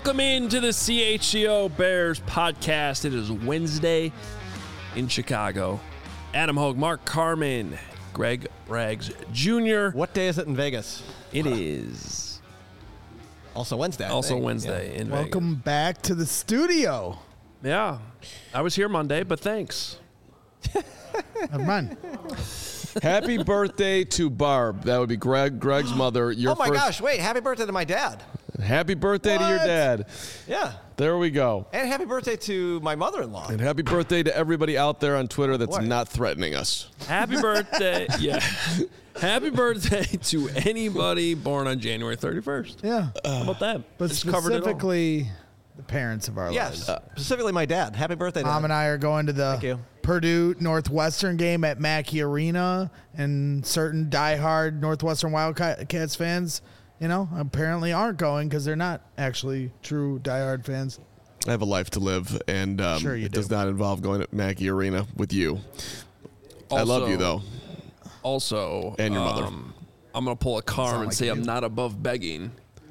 Welcome into the CHGO Bears podcast. It is Wednesday in Chicago. Adam Hogue, Mark Carman, Greg Braggs Jr. What day is it in Vegas? It is also Wednesday. also Wednesday in Vegas. Welcome back to the studio. Yeah, I was here Monday, but thanks. Never mind. Happy birthday to Barb. That would be Greg's mother. Oh my gosh, wait, happy birthday to my dad. Happy birthday to your dad. Yeah. There we go. And happy birthday to my mother-in-law. And happy birthday to everybody out there on Twitter that's not threatening us. Happy birthday. Yeah. Happy birthday to anybody born on January 31st. Yeah. How about that? But Just covered it all. specifically, the parents of our Yes, lives. specifically my dad. Happy birthday to Mom him. and I are going to Thank the you. Purdue Northwestern game at Mackey Arena, and certain diehard Northwestern Wildcats fans, apparently aren't going because they're not actually true diehard fans. I have a life to live, and Sure you it do. does not involve going to Mackey Arena with you. I love you, though. Also, And your mother. I'm going to pull a Carm and like say you. I'm not above begging.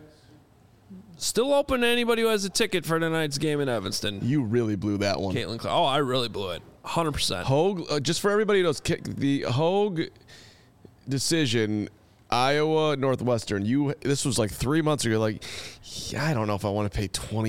Still open to anybody who has a ticket for tonight's game in Evanston. You really blew that one. Caitlin Clark. Oh, I really blew it. 100%. Hogue, just for everybody who knows, the Hogue decision, Iowa Northwestern. This was like 3 months ago. Like, yeah, I don't know if I want to pay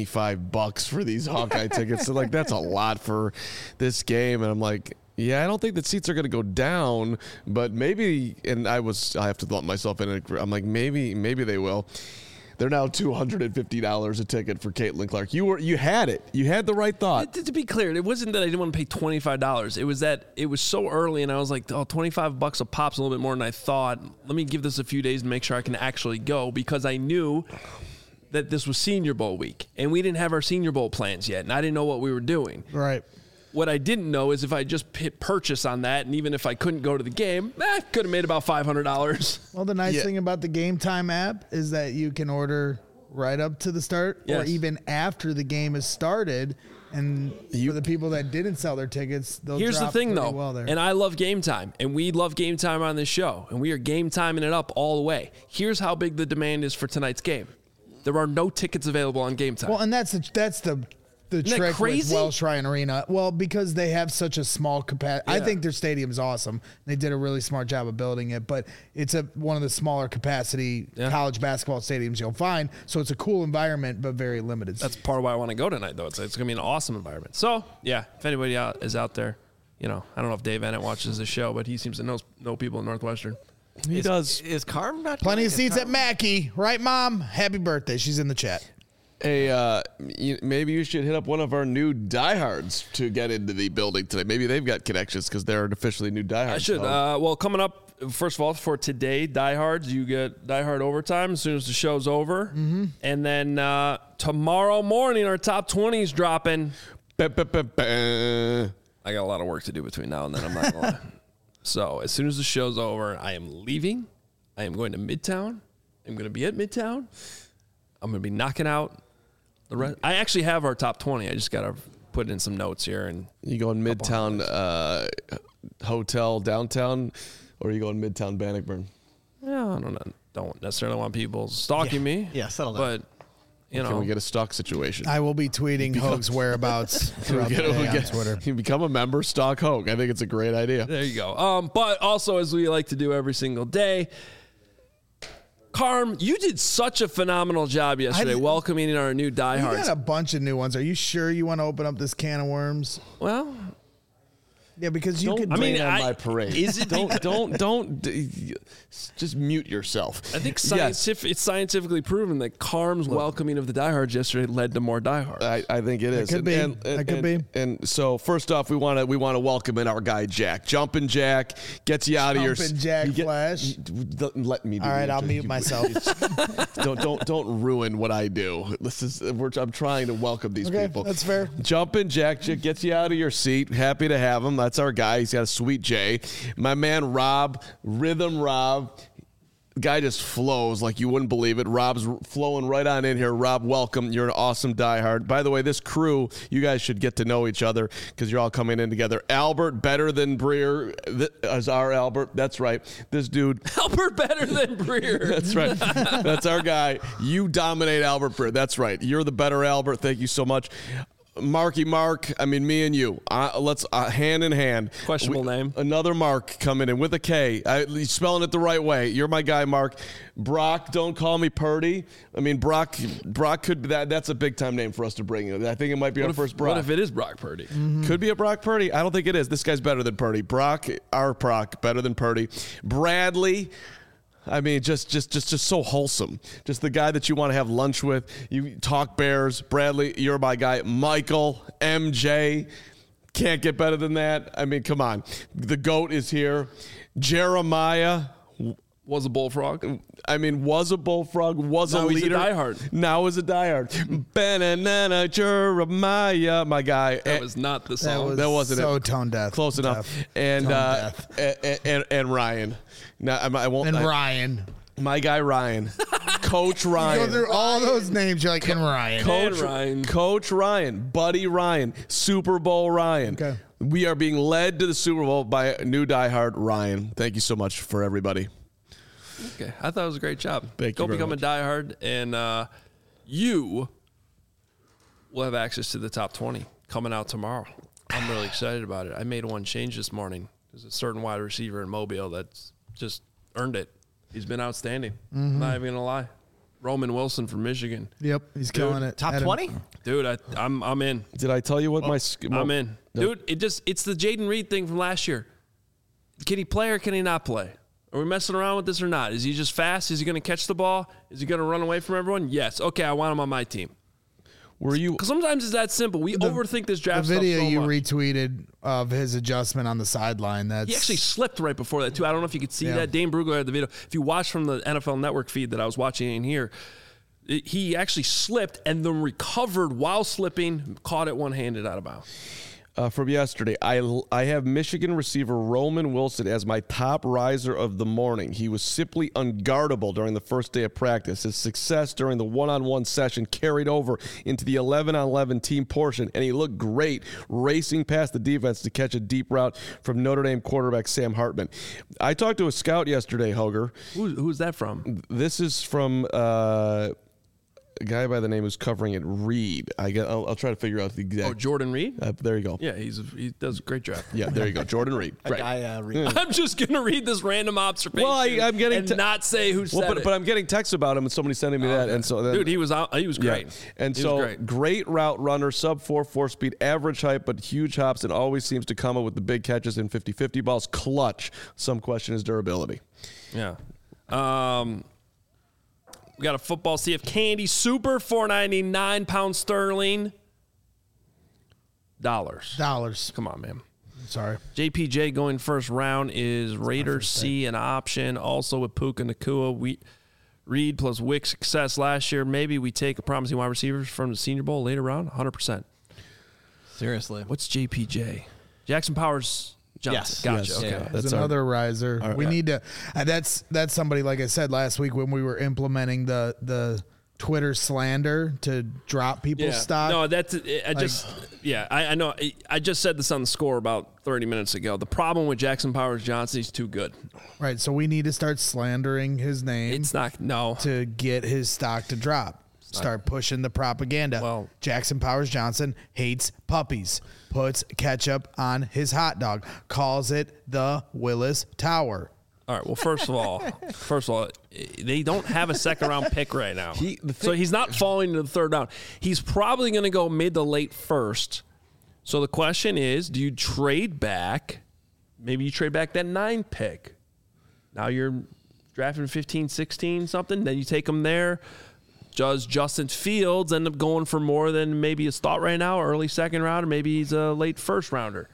$25 for these Hawkeye tickets. So like, that's a lot for this game. And I'm like, yeah, I don't think that seats are going to go down, but maybe. And I have to lump myself in. I'm like, maybe they will. They're now $250 a ticket for Caitlin Clark. You had it. You had the right thought. To be clear, it wasn't that I didn't want to pay $25. It was that it was so early, and I was like, oh, $25 a pop's a little bit more than I thought. Let me give this a few days to make sure I can actually go, because I knew that this was Senior Bowl week, and we didn't have our Senior Bowl plans yet, and I didn't know what we were doing. Right. What I didn't know is if I just hit purchase on that, and even if I couldn't go to the game, I could have made about $500. Well, the nice Yeah. thing about the Game Time app is that you can order right up to the start or Yes. even after the game has started. And for the people that didn't sell their tickets, they'll Here's the drop thing, pretty though, well there. and I love Game Time, and we love Game Time on this show, and we are Game Timing it up all the way. Here's how big the demand is for tonight's game. There are no tickets available on Game Time. Well, and that's the that trick with crazy? Welsh Ryan Arena. Well, because they have such a small capacity. I Yeah. think their stadium's awesome. They did a really smart job of building it, but it's one of the smaller capacity college basketball stadiums you'll find. So it's a cool environment, but very limited. That's part of why I want to go tonight, though. It's going to be an awesome environment. So, yeah, if anybody is out there, I don't know if Dave Ennett watches the show, but he seems to know people at Northwestern. He does. Is Carm not Plenty going? of seats at Mackey, right, Mom? Happy birthday. She's in the chat. Hey, maybe you should hit up one of our new diehards to get into the building today. Maybe they've got connections because they're officially new diehards. I should. Well, coming up, first of all, for today, Diehards, you get Diehard Overtime as soon as the show's over. Mm-hmm. And then tomorrow morning, our top 20 is dropping. I got a lot of work to do between now and then, I'm not going to lie. So as soon as the show's over, I am leaving. I am going to Midtown. I'm going to be at Midtown. I'm going to be knocking out the rest. I actually have our top 20. I just got to put in some notes here. And You going Midtown Hotel downtown, or are you going Midtown Bannockburn? yeah, I don't necessarily want people stalking me. Yeah, settle down. But, Can we get a stalk situation? I will be tweeting Hogue's whereabouts throughout the day on Twitter. You become a member, stalk Hogue. I think it's a great idea. There you go. But also, as we like to do every single day, Carm, you did such a phenomenal job yesterday welcoming our new You diehards. got a bunch of new ones. Are you sure you want to open up this can of worms? Well, Yeah, because you Don't could. rain on my parade. is it Don't. Just mute yourself. I think Yes. it's scientifically proven that Carm's welcoming of the diehards yesterday led to more diehards. I think it is. could be. That could be. And so first off, we want to welcome in our guy Jack. Jumping Jack gets you out of your Jumpin' Jack Flash. Let me do All right, it. I'll mute myself. Don't ruin what I do. I'm trying to welcome these Okay, people. that's fair. Jumping Jack gets you out of your seat. Happy to have him. That's our guy. He's got a sweet J. My man Rob, Rhythm Rob. guy just flows like you wouldn't believe it. Rob's flowing right on in here. Rob, welcome. You're an awesome diehard. By the way, this crew, you guys should get to know each other because you're all coming in together. Albert, better than Breer, as our Albert. That's right. This dude. Albert better than Breer. That's right. That's our guy. You dominate Albert Breer. That's right. You're the better Albert. Thank you so much. Marky Mark, I mean, me and you. Let's hand in hand. Questionable name. Another Mark coming in with a K. You're spelling it the right way. You're my guy, Mark. Brock, don't call me Purdy. I mean, Brock could be that's a big time name for us to bring in. I think it might be our first Brock. What if it is Brock Purdy? Mm-hmm. Could be a Brock Purdy. I don't think it is. This guy's better than Purdy. Our Brock, better than Purdy. Bradley. I mean, just so wholesome. Just the guy that you want to have lunch with. You talk Bears. Bradley, you're my guy. Michael, MJ, can't get better than that. I mean, come on. The GOAT is here. Jeremiah. Was a bullfrog. I mean, was a bullfrog, was Now a he's a leader. diehard. Now is a diehard. Banana Jeremiah, my guy. That was not the song. That wasn't so it. tone deaf. Close enough. And and Ryan. Now I won't. And Ryan. My guy Ryan, Coach Go Ryan, through all those names. You're like, and Ryan. Coach Ryan, Buddy Ryan, Super Bowl Ryan. Okay. We are being led to the Super Bowl by a new diehard Ryan. Thank you so much for everybody. Okay, I thought it was a great job. Thank you Go very become much. a diehard, and you will have access to the top 20 coming out tomorrow. I'm really excited about it. I made one change this morning. There's a certain wide receiver in Mobile that's just earned it. He's been outstanding. I'm not even gonna lie. Roman Wilson from Michigan. Yep, he's killing it. Top 20? Dude, I'm in. Did I tell you what I'm in. Dude, it's the Jaden Reed thing from last year. Can he play or can he not play? Are we messing around with this or not? Is he just fast? Is he going to catch the ball? Is he going to run away from everyone? Yes. Okay, I want him on my team. Were you? Because sometimes it's that simple. We overthink this The draft stuff video so you much. retweeted of his adjustment on the sideline. That's He actually slipped right before that, too. I don't know if you could see that. Dane Brugler had the video. If you watch from the NFL Network feed that I was watching in here, he actually slipped and then recovered while slipping, caught it one-handed out of bounds. From yesterday, I have Michigan receiver Roman Wilson as my top riser of the morning. He was simply unguardable during the first day of practice. His success during the one-on-one session carried over into the 11-on-11 team portion, and he looked great racing past the defense to catch a deep route from Notre Dame quarterback Sam Hartman. I talked to a scout yesterday, Hoger. Who's that from? This is from a guy by the name who's covering it, Reed. I'll try to figure out the exact. Oh, Jordan Reed? There you go. Yeah, he does a great job. Yeah, there you go. Jordan Reed. Right. I'm just going to read this random observation I'm getting and not say who said it. But I'm getting texts about him and somebody sending me that. And so then, Dude, he was great. Yeah. And He so was great route runner, sub 4 speed, average height, but huge hops, and always seems to come up with the big catches in 50-50 balls. Clutch. Some question his durability. Yeah. We got a football CF Candy Super, $4.99 pound sterling. Dollars. Come on, man. Sorry. JPJ going first round is Raiders C an option. Also with Puka Nacua. Reed plus Wick success last year. Maybe we take a promising wide receiver from the Senior Bowl later round. 100%. Seriously. What's JPJ? Jackson Powers Johnson. Yes. Gotcha. Yes. Okay. Yeah. That's That's another riser. We yeah. need to. That's somebody, like I said last week when we were implementing the Twitter slander to drop people's stock. No, I know. I just said this on the score about 30 minutes ago. The problem with Jackson Powers Johnson, he's too good. Right. So we need to start slandering his name It's not. No. to get his stock to drop. Start pushing the propaganda. Well- Jackson Powers Johnson hates puppies. Puts ketchup on his hot dog. Calls it the Willis Tower. All right. Well, first of all, they don't have a second round pick right now. So he's not falling to the third round. He's probably going to go mid to late first. So the question is, do you trade back? Maybe you trade back that 9 pick. Now you're drafting 15, 16, something. Then you take him there. Does Justin Fields end up going for more than maybe his thought right now, early second round, or maybe he's a late first rounder?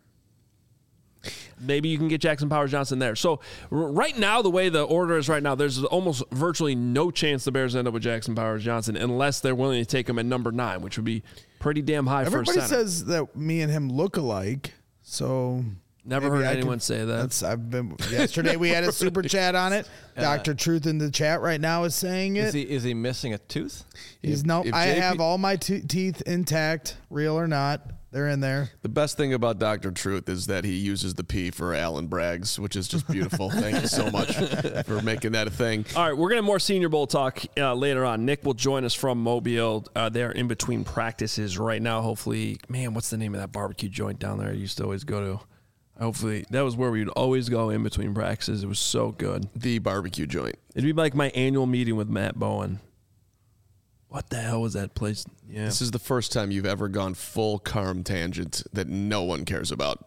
Maybe you can get Jackson Powers Johnson there. So right now, the way the order is right now, there's almost virtually no chance the Bears end up with Jackson Powers Johnson unless they're willing to take him at number 9, which would be pretty damn high for a Everybody center. says that me and him look alike. So Never Maybe heard I anyone could- say that. Yesterday we had a super chat on it. Dr. Truth in the chat right now is saying it. Is he missing a tooth? He's if I JP have all my teeth intact, real or not. They're in there. The best thing about Dr. Truth is that he uses the P for Alan Braggs, which is just beautiful. Thank you so much for making that a thing. All right, we're going to have more Senior Bowl talk later on. Nick will join us from Mobile. They're in between practices right now. Hopefully, man, what's the name of that barbecue joint down there I used to always go to? Hopefully, that was where we'd always go in between practices. It was so good. The barbecue joint. It'd be like my annual meeting with Matt Bowen. What the hell was that place? Yeah. This is the first time you've ever gone full Carm tangent that no one cares about.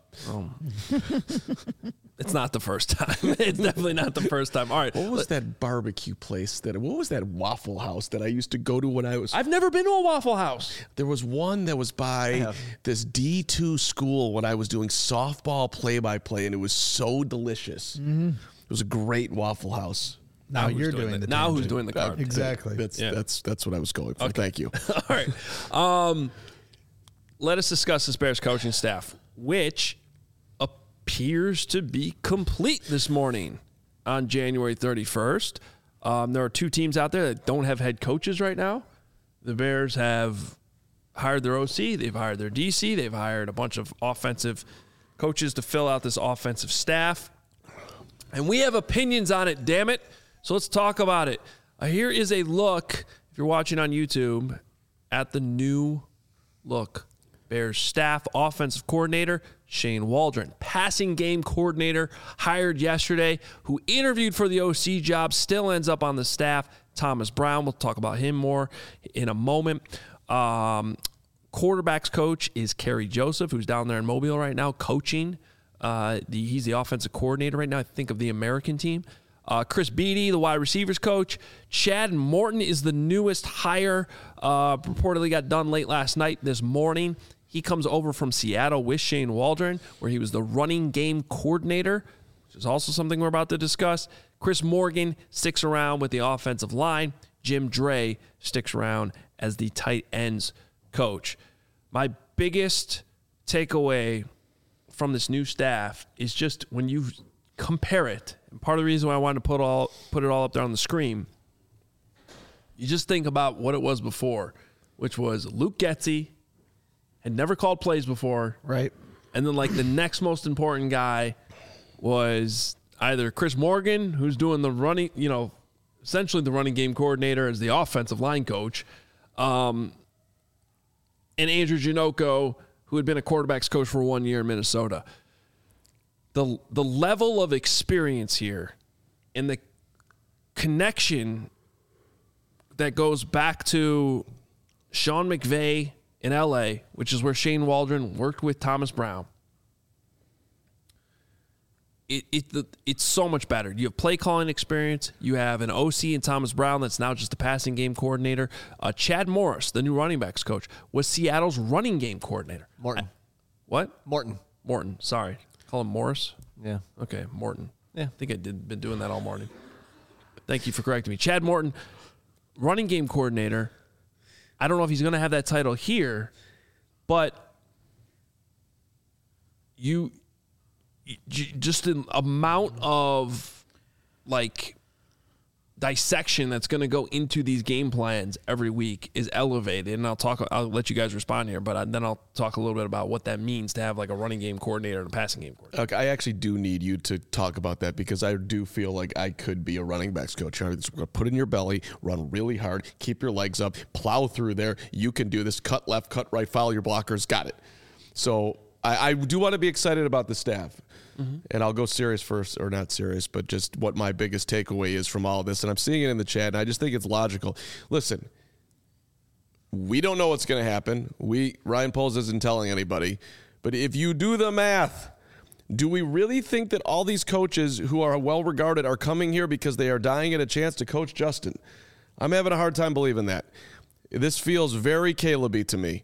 It's not the first time. It's definitely not the first time. All right. What was that barbecue place what was that Waffle House that I used to go to when I was... I've never been to a Waffle House. There was one that was by this D2 school when I was doing softball play-by-play, and it was so delicious. Mm-hmm. It was a great Waffle House. Now you're doing the Now who's tangent. doing the card? Exactly. That's what I was going for. Thank you. All right. Let us discuss this Bears coaching staff, which appears to be complete this morning on January 31st. There are two teams out there that don't have head coaches right now. The Bears have hired their OC. They've hired their DC. They've hired a bunch of offensive coaches to fill out this offensive staff. And we have opinions on it, damn it. So let's talk about it. Here is a look, if you're watching on YouTube, at the new look. Bears staff offensive coordinator, Shane Waldron. Passing game coordinator hired yesterday, who interviewed for the OC job, still ends up on the staff, Thomas Brown. We'll talk about him more in a moment. Quarterbacks coach is Kerry Joseph, who's down there in Mobile right now coaching. He's the offensive coordinator right now, I think, of the American team. Chris Beatty, the wide receivers coach. Chad Morton is the newest hire. Reportedly got done late last night, this morning. He comes over from Seattle with Shane Waldron, where he was the running game coordinator, which is also something we're about to discuss. Chris Morgan sticks around with the offensive line. Jim Dre sticks around as the tight ends coach. My biggest takeaway from this new staff is just when you compare it, and part of the reason why I wanted to put it all up there on the screen, you just think about what it was before, which was Luke Getsy had never called plays before. Right. And then, like, the next most important guy was either Chris Morgan, who's doing the running, essentially the running game coordinator as the offensive line coach, and Andrew Janocko, who had been a quarterback's coach for 1 year in Minnesota. The level of experience here and the connection that goes back to Sean McVay in LA, which is where Shane Waldron worked with Thomas Brown. It's so much better. You have play calling experience. You have an OC in Thomas Brown that's now just a passing game coordinator. Chad Morris, the new running backs coach, was Seattle's running game coordinator. Morton. What? Morton. Morton. Sorry. Call him Morris? Yeah. Okay, Morton. Yeah. I think been doing that all morning. Thank you for correcting me. Chad Morton, running game coordinator. I don't know if he's going to have that title here, but just the amount of dissection that's going to go into these game plans every week is elevated. And I'll let you guys respond here, but then I'll talk a little bit about what that means to have like a running game coordinator and a passing game coordinator. Okay, I actually do need you to talk about that because I do feel like I could be a running backs coach. Put in your belly, run really hard, keep your legs up, plow through there. You can do this. Cut left, cut right, follow your blockers. Got it. So I do want to be excited about the staff. Mm-hmm. And I'll go serious first, or not serious, but just what my biggest takeaway is from all of this. And I'm seeing it in the chat, and I just think it's logical. Listen, we don't know what's going to happen. Ryan Poles isn't telling anybody. But if you do the math, do we really think that all these coaches who are well-regarded are coming here because they are dying at a chance to coach Justin? I'm having a hard time believing that. This feels very Caleb-y to me.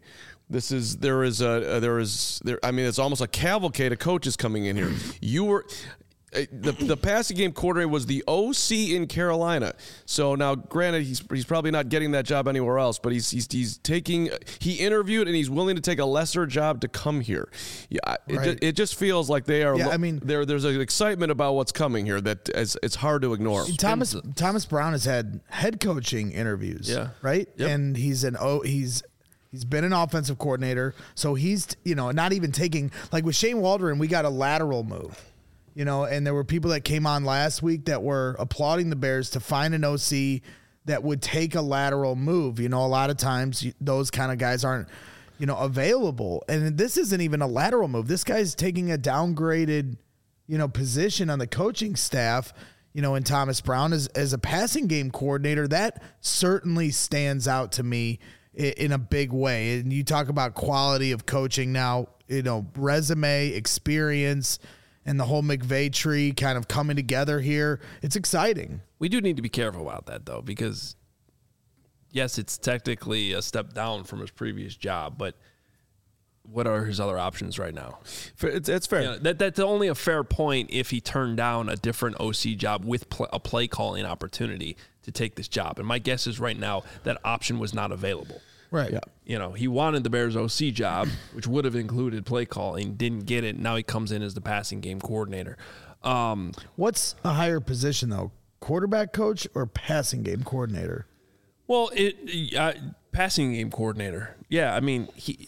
It's almost a cavalcade of coaches coming in here. the passing game coordinator was the OC in Carolina. So now, granted, he's probably not getting that job anywhere else, but he interviewed and he's willing to take a lesser job to come here. Yeah, it just feels like they are. Yeah, I mean, there's an excitement about what's coming here that it's hard to ignore. Thomas Brown has had head coaching interviews. Yeah. Right. Yep. And he's been an offensive coordinator, so he's not even taking, like with Shane Waldron, we got a lateral move. And there were people that came on last week that were applauding the Bears to find an OC that would take a lateral move. A lot of times those kind of guys aren't, available. And this isn't even a lateral move. This guy's taking a downgraded, position on the coaching staff, and Thomas Brown as a passing game coordinator. That certainly stands out to me in a big way. And you talk about quality of coaching now, resume, experience, and the whole McVay tree kind of coming together here. It's exciting. We do need to be careful about that, though, because, yes, it's technically a step down from his previous job, but what are his other options right now? It's fair. That's only a fair point if he turned down a different OC job with a play calling opportunity to take this job. And my guess is right now that option was not available. Right. Yeah. He wanted the Bears OC job, which would have included play calling, didn't get it. Now he comes in as the passing game coordinator. What's a higher position, though? Quarterback coach or passing game coordinator? Well, passing game coordinator. Yeah, I mean,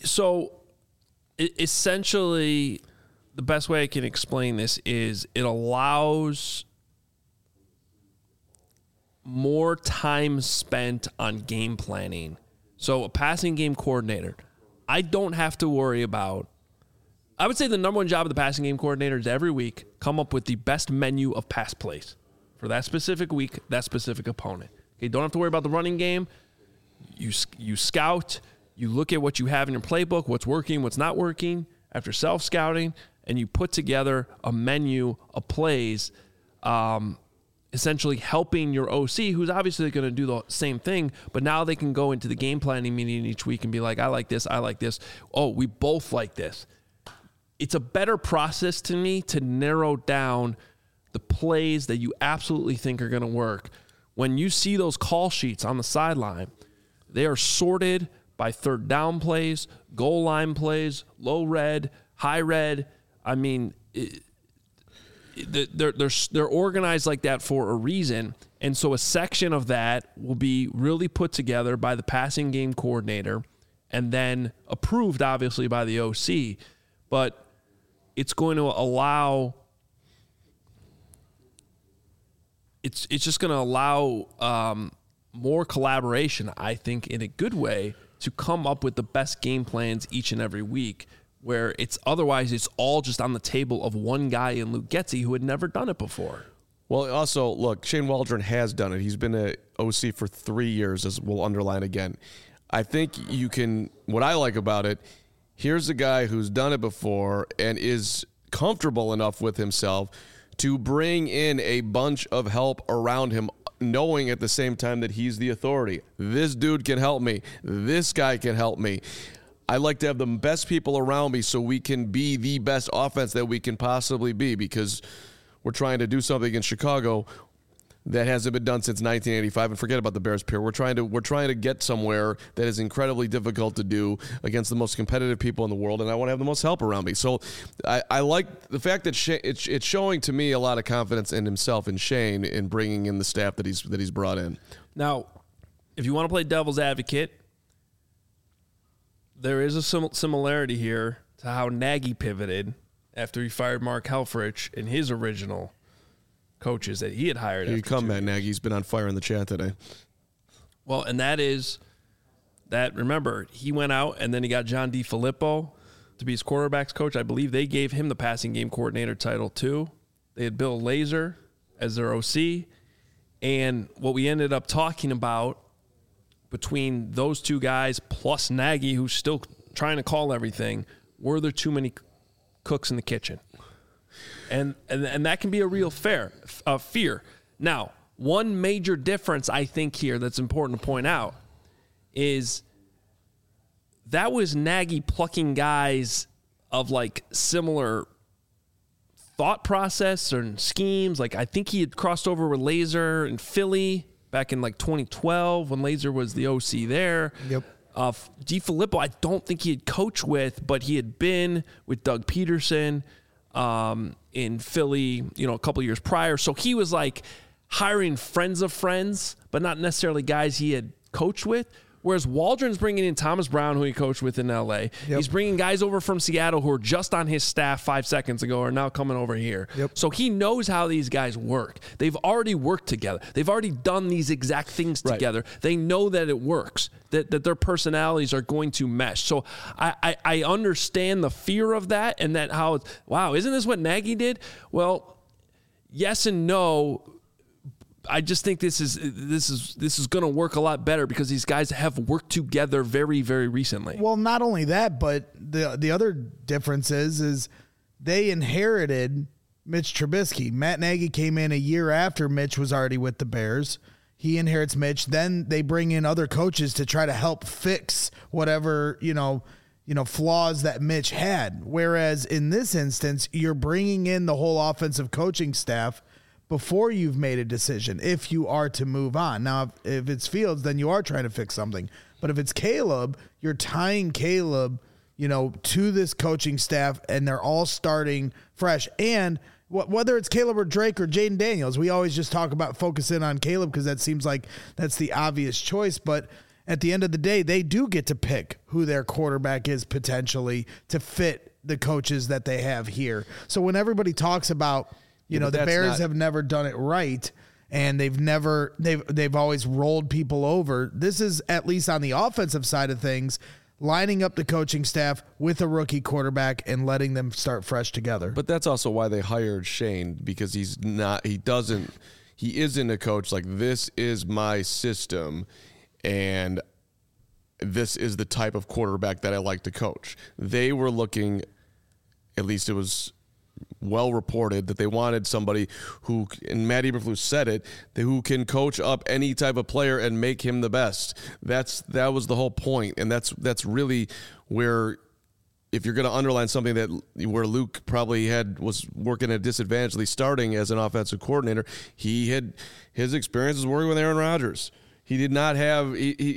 essentially, the best way I can explain this is it allows more time spent on game planning. So a passing game coordinator, I don't have to worry about. I would say the number one job of the passing game coordinator is every week come up with the best menu of pass plays for that specific week, that specific opponent. Okay, don't have to worry about the running game. You scout, you look at what you have in your playbook, what's working, what's not working after self-scouting, and you put together a menu of plays, essentially helping your OC, who's obviously going to do the same thing, but now they can go into the game planning meeting each week and be like, I like this, I like this. Oh, we both like this. It's a better process to me to narrow down the plays that you absolutely think are going to work. When you see those call sheets on the sideline, they are sorted by third down plays, goal line plays, low red, high red. I mean, they're organized like that for a reason. And so a section of that will be really put together by the passing game coordinator and then approved, obviously, by the OC. But it's going to allow it's just going to allow more collaboration, I think, in a good way, to come up with the best game plans each and every week, where it's all just on the table of one guy in Luke Getsy who had never done it before. Well, also, look, Shane Waldron has done it. He's been an OC for 3 years, as we'll underline again. I think what I like about it, here's a guy who's done it before and is comfortable enough with himself to bring in a bunch of help around him, knowing at the same time that he's the authority. This dude can help me. This guy can help me. I like to have the best people around me so we can be the best offense that we can possibly be, because we're trying to do something in Chicago that hasn't been done since 1985. And forget about the Bears, Pierre. We're trying to get somewhere that is incredibly difficult to do against the most competitive people in the world, and I want to have the most help around me. So I like the fact that it's showing to me a lot of confidence in himself and Shane in bringing in the staff that he's brought in. Now, if you want to play devil's advocate, there is a similarity here to how Nagy pivoted after he fired Mark Helfrich in his original coaches that he had hired. Here you come, Matt Nagy. He's been on fire in the chat today. Well, and that is that, remember, he went out and then he got John DeFilippo to be his quarterback's coach. I believe they gave him the passing game coordinator title too. They had Bill Lazor as their OC. And what we ended up talking about between those two guys plus Nagy, who's still trying to call everything, were there too many cooks in the kitchen? And that can be a real fear. Now, one major difference I think here that's important to point out is that was Nagy plucking guys of like similar thought process and schemes. Like, I think he had crossed over with Laser in Philly back in like 2012 when Laser was the OC there. Yep. DeFilippo, I don't think he had coached with, but he had been with Doug Peterson in Philly, a couple years prior. So he was like hiring friends of friends, but not necessarily guys he had coached with. Whereas Waldron's bringing in Thomas Brown, who he coached with in L.A. Yep. He's bringing guys over from Seattle who were just on his staff 5 seconds ago are now coming over here. Yep. So he knows how these guys work. They've already worked together. They've already done these exact things together. They know that it works, that their personalities are going to mesh. So I understand the fear of that and that how, wow, isn't this what Nagy did? Well, yes and no. I just think this is going to work a lot better because these guys have worked together very, very recently. Well, not only that, but the other difference is they inherited Mitch Trubisky. Matt Nagy came in a year after Mitch was already with the Bears. He inherits Mitch. Then they bring in other coaches to try to help fix whatever, flaws that Mitch had. Whereas in this instance, you're bringing in the whole offensive coaching staff before you've made a decision, if you are to move on. Now, if it's Fields, then you are trying to fix something. But if it's Caleb, you're tying Caleb, to this coaching staff, and they're all starting fresh. And whether it's Caleb or Drake or Jaden Daniels, we always just talk about focusing on Caleb because that seems like that's the obvious choice. But at the end of the day, they do get to pick who their quarterback is potentially to fit the coaches that they have here. So when everybody talks about, the Bears have never done it right, and they've always rolled people over. This is, at least on the offensive side of things, lining up the coaching staff with a rookie quarterback and letting them start fresh together. But that's also why they hired Shane, because he isn't a coach like, this is my system and this is the type of quarterback that I like to coach. They were looking, at least it was well reported, that they wanted somebody who, and Matt Eberflus said it, who can coach up any type of player and make him the best. That was the whole point, and that's really where, if you're going to underline something where Luke probably was working at a disadvantage, at least starting as an offensive coordinator, his experiences working with Aaron Rodgers. He did not have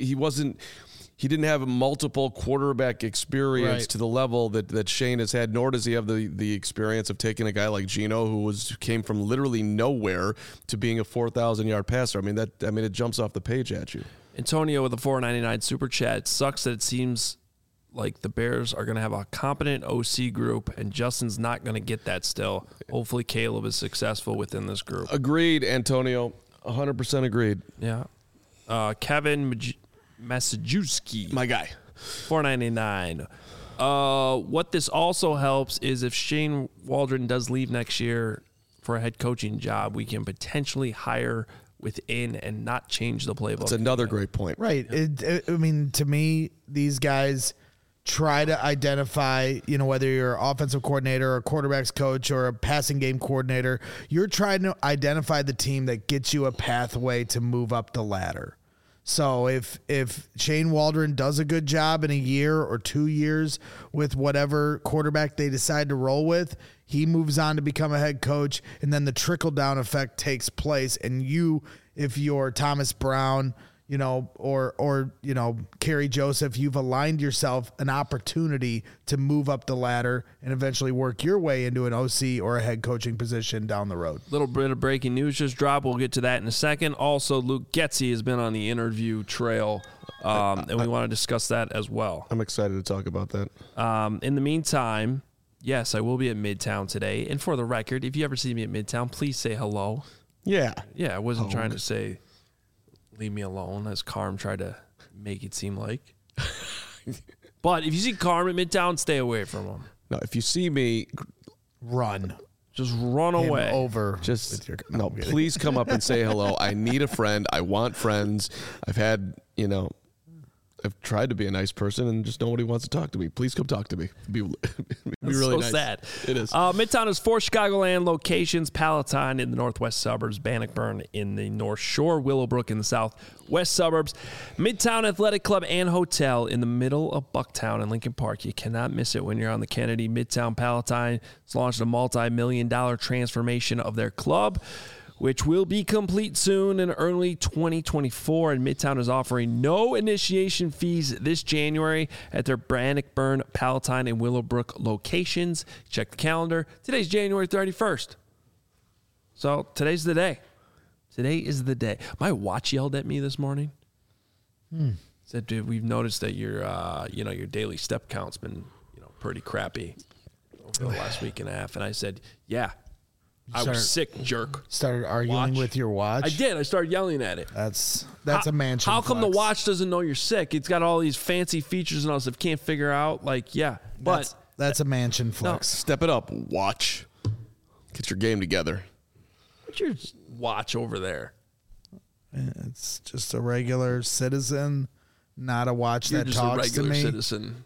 he didn't have a multiple quarterback experience to the level that Shane has had, nor does he have the experience of taking a guy like Geno, who came from literally nowhere to being a 4,000-yard passer. It jumps off the page at you. Antonio with a $4.99 super chat. It sucks that it seems like the Bears are going to have a competent OC group, and Justin's not going to get that still. Hopefully Caleb is successful within this group. Agreed, Antonio. 100% agreed. Yeah. Kevin Masajewski, my guy, $4.99. What this also helps is if Shane Waldron does leave next year for a head coaching job, we can potentially hire within and not change the playbook. That's another great point. Right. To me, these guys try to identify, whether you're an offensive coordinator or a quarterback's coach or a passing game coordinator, you're trying to identify the team that gets you a pathway to move up the ladder. So if Shane Waldron does a good job in a year or 2 years with whatever quarterback they decide to roll with, he moves on to become a head coach, and then the trickle-down effect takes place. And if you're Thomas Brown, or Kerry Joseph, you've aligned yourself an opportunity to move up the ladder and eventually work your way into an OC or a head coaching position down the road. Little bit of breaking news just dropped. We'll get to that in a second. Also, Luke Getsy has been on the interview trail, and we want to discuss that as well. I'm excited to talk about that. In the meantime, yes, I will be at Midtown today. And for the record, if you ever see me at Midtown, please say hello. Yeah. Yeah, I wasn't trying to say leave me alone, as Carm tried to make it seem like. But if you see Carm at Midtown, stay away from him. No, if you see me, run. Just run away. Over. Please come up and say hello. I need a friend. I want friends. I've had I've tried to be a nice person, and just nobody wants to talk to me. Please come talk to me. It'd be really so nice. sad. It is. Midtown has 4 Chicagoland locations: Palatine in the northwest suburbs, Bannockburn in the North Shore, Willowbrook in the southwest suburbs, Midtown Athletic Club and Hotel in the middle of Bucktown and Lincoln Park. You cannot miss it when you're on the Kennedy. Midtown Palatine has launched a multi-million-dollar transformation of their club, which will be complete soon in early 2024. And Midtown is offering no initiation fees this January at their Bannockburn, Palatine, and Willowbrook locations. Check the calendar. Today's January 31st. So today's the day. Today is the day. My watch yelled at me this morning. Said, dude, we've noticed that your daily step count's been, pretty crappy over the last week and a half. And I said, yeah. I was sick, jerk. Started arguing with your watch? I did. I started yelling at it. That's a mansion How come the flex. watch doesn't know you're sick? It's got all these fancy features and all stuff. Can't figure out. But That's a mansion flex. Step it up. Watch. Get your game together. what's your watch over there? It's just a regular citizen, not a watch You're that just talks a regular to me. citizen.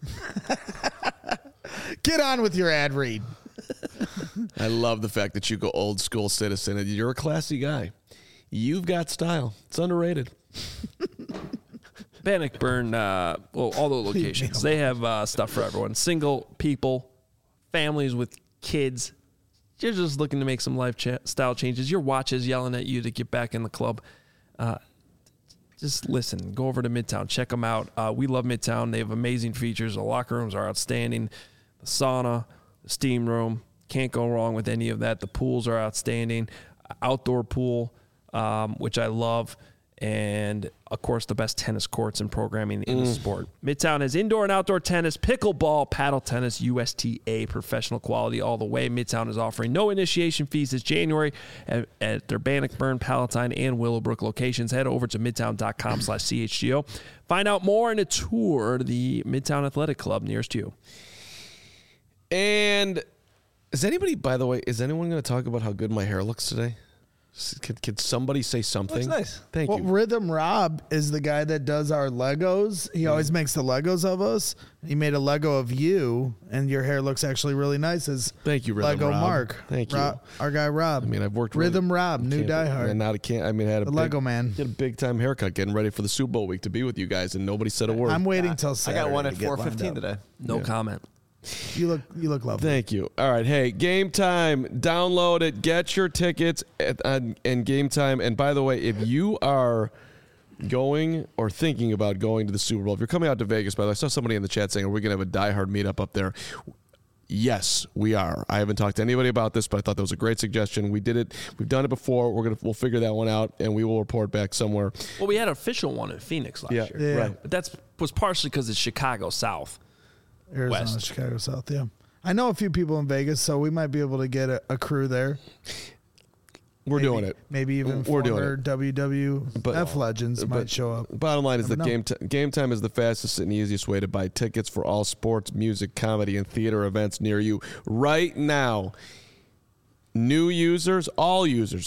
Get on with your ad read. I love the fact that you go old school citizen, and you're a classy guy. You've got style. It's underrated. Bannockburn, all the locations, they have stuff for everyone. Single people, families with kids. You're just looking to make some lifestyle changes. Your watch is yelling at you to get back in the club. Just listen. Go over to Midtown. Check them out. We love Midtown. They have amazing features. The locker rooms are outstanding. The sauna, the steam room. Can't go wrong with any of that. The pools are outstanding. Outdoor pool, which I love. And, of course, the best tennis courts and programming in the sport. Midtown has indoor and outdoor tennis, pickleball, paddle tennis, USTA, professional quality all the way. Midtown is offering no initiation fees this January at their Bannockburn, Palatine, and Willowbrook locations. Head over to midtown.com/CHGO. Find out more and a tour the Midtown Athletic Club nearest you. And is anybody, by the way, is anyone going to talk about how good my hair looks today? Could somebody say something? Looks nice. Thank you. Rhythm Rob is the guy that does our Legos. He always makes the Legos of us. He made a Lego of you, and your hair looks actually really nice as Thank you, Rhythm Lego Rob. Mark. Thank you. Our guy Rob. I mean, I've worked Rhythm Rob, new diehard. And now I can't. I mean, I had The Lego man. Did a big time haircut, getting ready for the Super Bowl week to be with you guys, and nobody said a word. I'm waiting till I Saturday. got one at to get lined 4:15 up. today. No comment. You look lovely. Thank you. All right. Hey, Game Time. Download it. Get your tickets and Game Time. And by the way, if you are going or thinking about going to the Super Bowl, if you're coming out to Vegas, by the way, I saw somebody in the chat saying, are we going to have a diehard meetup up there? Yes, we are. I haven't talked to anybody about this, but I thought that was a great suggestion. We did it. We've done it before. We'll figure that one out, and we will report back somewhere. Well, we had an official one in Phoenix last year. Yeah. Right. But that was partially because it's Chicago South. Arizona, West. Chicago South, yeah. I know a few people in Vegas, so we might be able to get a crew there. We're doing it. Maybe even We're doing former it. WWF legends might show up. Bottom line is that Never know. Game Time is the fastest and easiest way to buy tickets for all sports, music, comedy, and theater events near you right now. New users, all users,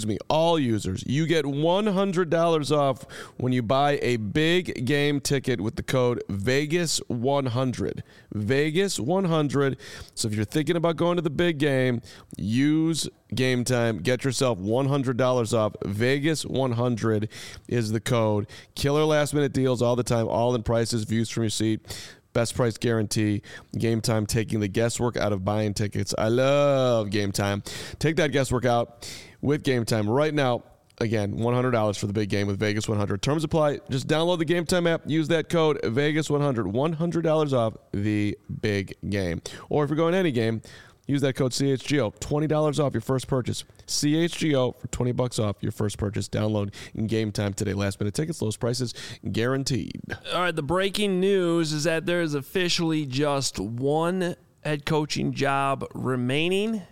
you get $100 off when you buy a big game ticket with the code Vegas100. Vegas100. So if you're thinking about going to the big game, use Game Time. Get yourself $100 off. Vegas100 is the code. Killer last minute deals all the time, all in prices, views from your seat. Best price guarantee. Game Time taking the guesswork out of buying tickets. I love Game Time. Take that guesswork out with Game Time right now. Again, $100 for the big game with Vegas 100. Terms apply. Just download the Game Time app. Use that code Vegas 100. $100 off the big game. Or if you're going to any game, use that code CHGO. $20 off your first purchase. CHGO for $20 off your first purchase. Download in Game Time today. Last minute tickets, lowest prices guaranteed. All right, the breaking news is that there is officially just one head coaching job remaining.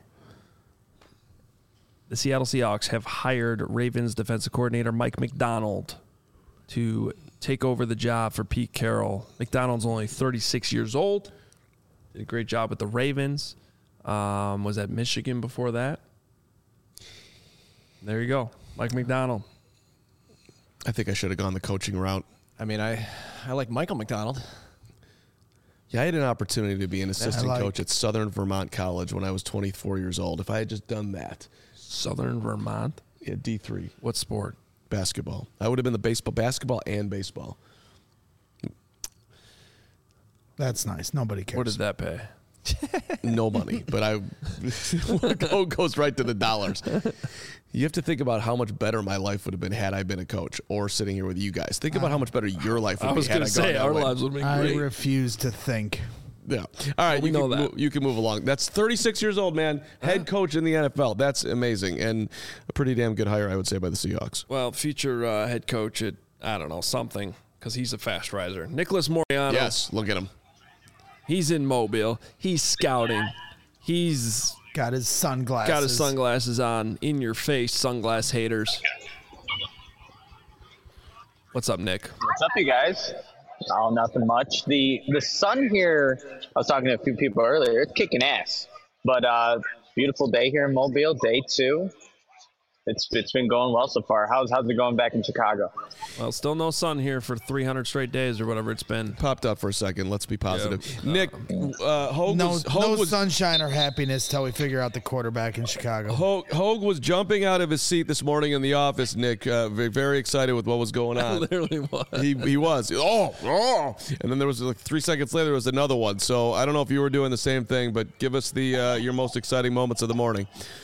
The Seattle Seahawks have hired Ravens defensive coordinator Mike Macdonald to take over the job for Pete Carroll. Macdonald's only 36 years old. Did a great job with the Ravens. Was at Michigan before that. There you go. Mike Macdonald. I think I should have gone the coaching route. I mean, I like Michael McDonald. Yeah, I had an opportunity to be an assistant like- coach at Southern Vermont College when I was 24 years old. If I had just done that, Southern Vermont. yeah, D3 What sport? basketball, I would have been the basketball and baseball. That's nice. Nobody cares. What did that pay? No money, but goes right to the dollars. You have to think about how much better my life would have been had I been a coach or sitting here with you guys. Think about how much better your life would I be was had going I to gone say that our way. lives would be I great. refuse to think. Yeah. All right. We know that. You can move along. That's 36 years old, man. Head coach in the NFL. That's amazing. And a pretty damn good hire, I would say, by the Seahawks. Well, future head coach at, I don't know, something, because he's a fast riser. Nicholas Moriano. Yes. Look at him. He's in Mobile. He's scouting. He's Got his sunglasses. got his sunglasses on. In your face, sunglass haters. What's up, Nick? What's up, you guys? Oh, nothing much. The sun here, I was talking to a few people earlier, it's kicking ass. But beautiful day here in Mobile, day 2. It's been going well so far. How's it going back in Chicago? Well, still no sun here for 300 straight days or whatever it's been. Popped up for a second. Let's be positive. Yeah. Nick, Hogue No, was, no Hogue was sunshine or happiness till we figure out the quarterback in Chicago. Hogue was jumping out of his seat this morning in the office, Nick, very excited with what was going on. Literally was. He was. Oh. And then there was like 3 seconds later, there was another one. So I don't know if you were doing the same thing, but give us the your most exciting moments of the morning.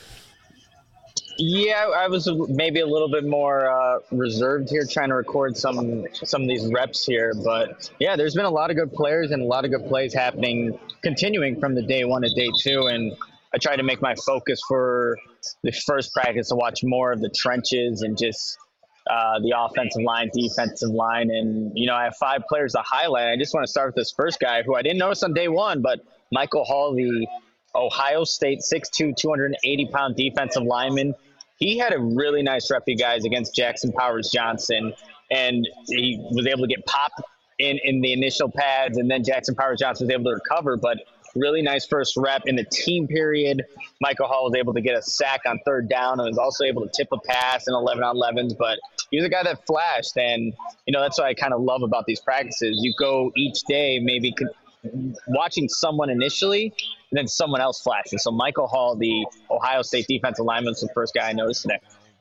Yeah, I was maybe a little bit more reserved here, trying to record some of these reps here. But yeah, there's been a lot of good players and a lot of good plays happening, continuing from the day 1 to day 2. And I tried to make my focus for the first practice to watch more of the trenches and just the offensive line, defensive line. And, you know, I have 5 players to highlight. I just want to start with this first guy who I didn't notice on day 1, but Michael Hall, the Ohio State 6'2", 280-pound defensive lineman. He had a really nice rep, you guys, against Jackson Powers Johnson, and he was able to get popped in the initial pads, and then Jackson Powers Johnson was able to recover, but really nice first rep. In the team period, Michael Hall was able to get a sack on 3rd down and was also able to tip a pass in 11-on-11s, but he was a guy that flashed, and, you know, that's what I kind of love about these practices. You go each day maybe watching someone initially, and then someone else flashes. So Michael Hall, the Ohio State defensive lineman, was the first guy I noticed today.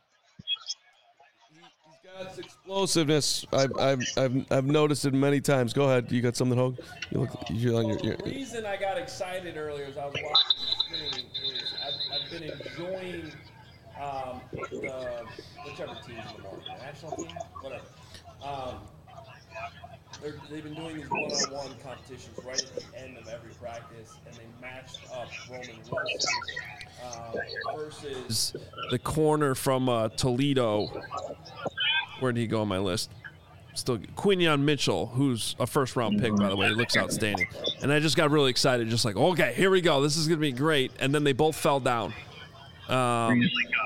He's got explosiveness. I've noticed it many times. Go ahead. You got something, Hogue? You're on your The reason I got excited earlier as I was watching the screen is I've been enjoying the whichever team in the morning, the national team, whatever. They've been doing these one-on-one competitions right at the end of every practice, and they matched up Roman Wilson versus the corner from Toledo. Where did he go on my list? Still Quinyon Mitchell, who's a first-round pick, by the way. He looks outstanding. And I just got really excited, just like, okay, here we go. This is going to be great. And then they both fell down. Am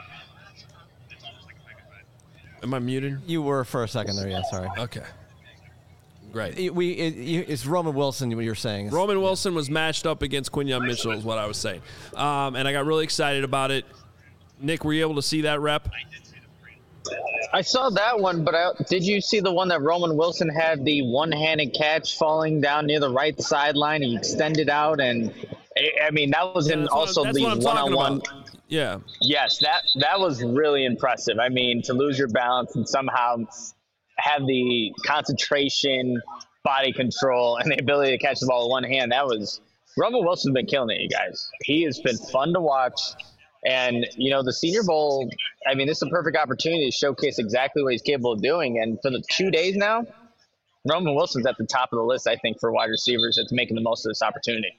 I muted? You were for a second there, yeah, sorry. Okay. Great. It's Roman Wilson, what you're saying. Roman Wilson was matched up against Quinyon Mitchell is what I was saying. And I got really excited about it. Nick, were you able to see that rep? I saw that one, but did you see the one that Roman Wilson had the one-handed catch falling down near the right sideline? He extended out, and I mean, that was in also these one-on-one. Yeah. Yes, that was really impressive. I mean, to lose your balance and somehow have the concentration, body control, and the ability to catch the ball with one hand. That was Roman Wilson's been killing it, you guys. He has been fun to watch. And, you know, the Senior Bowl, I mean, this is a perfect opportunity to showcase exactly what he's capable of doing. And for the 2 days now, Roman Wilson's at the top of the list, I think, for wide receivers that's making the most of this opportunity.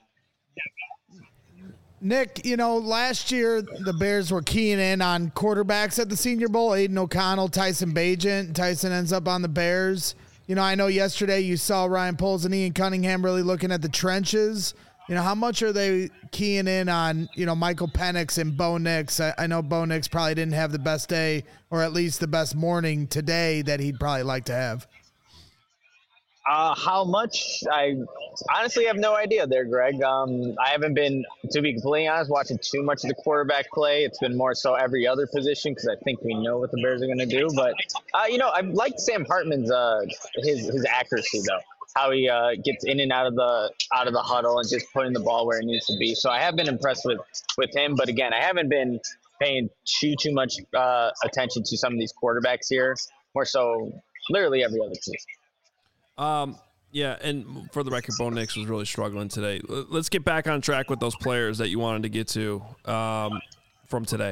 Nick, you know, last year the Bears were keying in on quarterbacks at the Senior Bowl. Aiden O'Connell, Tyson Bagent. Tyson ends up on the Bears. You know, I know yesterday you saw Ryan Poles and Ian Cunningham really looking at the trenches. You know, how much are they keying in on, you know, Michael Penix and Bo Nix? I know Bo Nix probably didn't have the best day, or at least the best morning today that he'd probably like to have. How much? I honestly have no idea there, Greg. I haven't been, to be completely honest, watching too much of the quarterback play. It's been more so every other position because I think we know what the Bears are going to do. But, I like Sam Hartman's his accuracy, though. How he gets in and out of the huddle and just putting the ball where it needs to be. So I have been impressed with him. But, again, I haven't been paying too much attention to some of these quarterbacks here. More so literally every other position. Yeah, and for the record, Bo Nix was really struggling today. Let's get back on track with those players that you wanted to get to from today.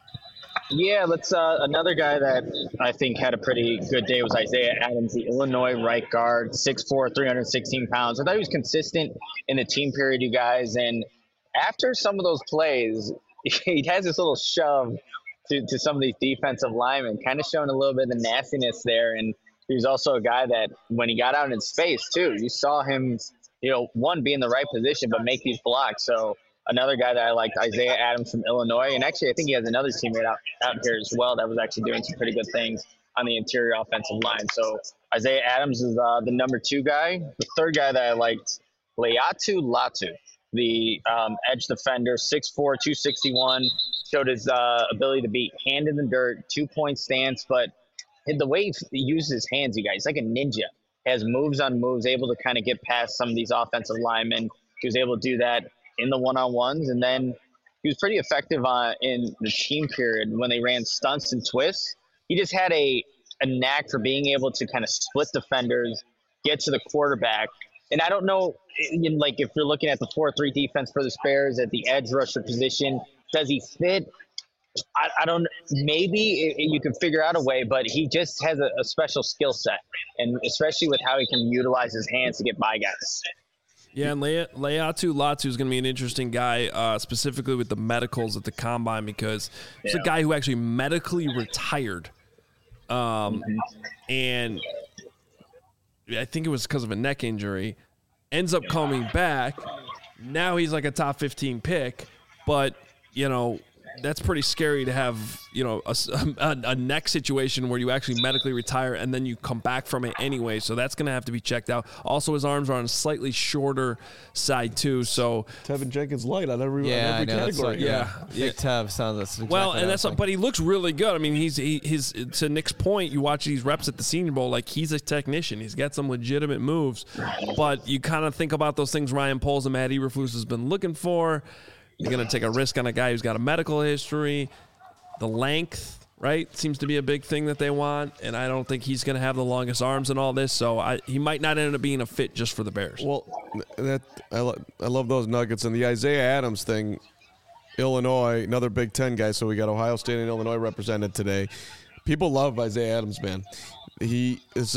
Yeah, let's. Another guy that I think had a pretty good day was Isaiah Adams, the Illinois right guard, 6'4", 316 pounds. I thought he was consistent in the team period, you guys. And after some of those plays, he has this little shove to some of these defensive linemen, kind of showing a little bit of the nastiness there. And he was also a guy that when he got out in space too, you saw him, one, be in the right position, but make these blocks. So another guy that I liked, Isaiah Adams from Illinois. And actually, I think he has another teammate out here as well that was actually doing some pretty good things on the interior offensive line. So Isaiah Adams is the number 2 guy. The third guy that I liked, Laiatu Latu, the edge defender, 6'4", 261, showed his ability to be hand in the dirt, 2-point stance, but the way he uses his hands, you guys, he's like a ninja. Has moves on moves, able to kind of get past some of these offensive linemen. He was able to do that in the one-on-ones, and then he was pretty effective in the team period when they ran stunts and twists. He just had a knack for being able to kind of split defenders, get to the quarterback. And I don't know, if you're looking at the 4-3 defense for the Bears at the edge rusher position, does he fit? I don't. Maybe you can figure out a way, but he just has a special skill set, and especially with how he can utilize his hands to get by guys. Yeah, and Laiatu Latu is going to be an interesting guy, specifically with the medicals at the combine, because he's a guy who actually medically retired, and I think it was because of a neck injury. Ends up coming back. Now he's like a top 15 pick, but that's pretty scary to have, a neck situation where you actually medically retire and then you come back from it anyway. So that's going to have to be checked out. Also, his arms are on a slightly shorter side too. So Tevin Jenkins light on every Big category. Tev sounds exactly well, and that's but he looks really good. I mean, he's to Nick's point. You watch these reps at the Senior Bowl, like he's a technician. He's got some legitimate moves, but you kind of think about those things Ryan Poles and Matt Eberflus has been looking for. You're going to take a risk on a guy who's got a medical history. The length, right, seems to be a big thing that they want, and I don't think he's going to have the longest arms and all this, so he might not end up being a fit just for the Bears. Well, I love those nuggets. And the Isaiah Adams thing, Illinois, another Big Ten guy, so we got Ohio State and Illinois represented today. People love Isaiah Adams, man. He's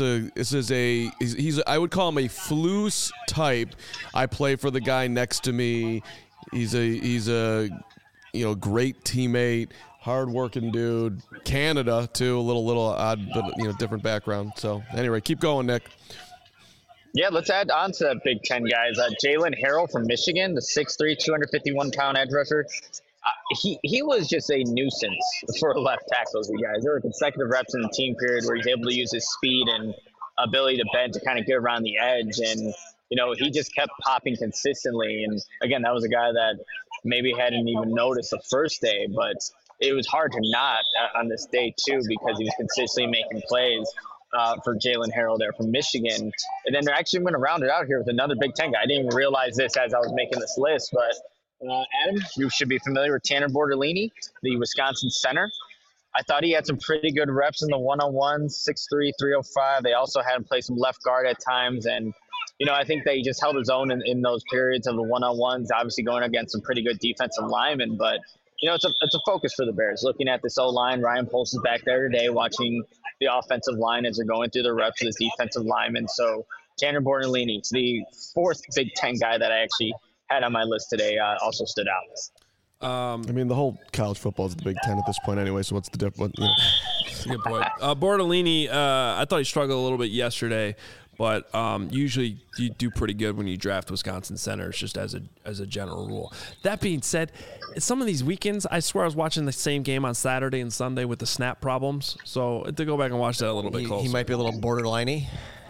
I would call him a Flus type. I play for the guy next to me. He's a great teammate, hard-working dude. Canada too, a little odd, but different background. So anyway, keep going, Nick. Yeah, let's add on to that Big Ten guys. Jalen Harrell from Michigan, the 6'3", 251-pound edge rusher. He was just a nuisance for left tackles, you guys. There were consecutive reps in the team period where he's able to use his speed and ability to bend to kind of get around the edge, and he just kept popping consistently. And again, that was a guy that maybe hadn't even noticed the first day, but it was hard to not on this day too, because he was consistently making plays for Jalen Harrell there from Michigan. And then they're actually going to round it out here with another Big Ten guy. I didn't even realize this as I was making this list, but Adam, you should be familiar with Tanner Bortolini, the Wisconsin center. I thought he had some pretty good reps in the one-on-one, 6'3", 305. They also had him play some left guard at times, and I think they just held his own in those periods of the one-on-ones, obviously going against some pretty good defensive linemen. But, it's a focus for the Bears. Looking at this O-line, Ryan Poles is back there today watching the offensive line as they're going through the reps of this defensive lineman. So Tanner Bortolini, the 4th Big Ten guy that I actually had on my list today, also stood out. The whole college football is the Big Ten at this point anyway, so what's the difference? Good point. Bortolini, I thought he struggled a little bit yesterday, but usually you do pretty good when you draft Wisconsin centers, just as a general rule. That being said, some of these weekends, I swear I was watching the same game on Saturday and Sunday with the snap problems. So to go back and watch that a little bit closer. He might be a little borderline-y.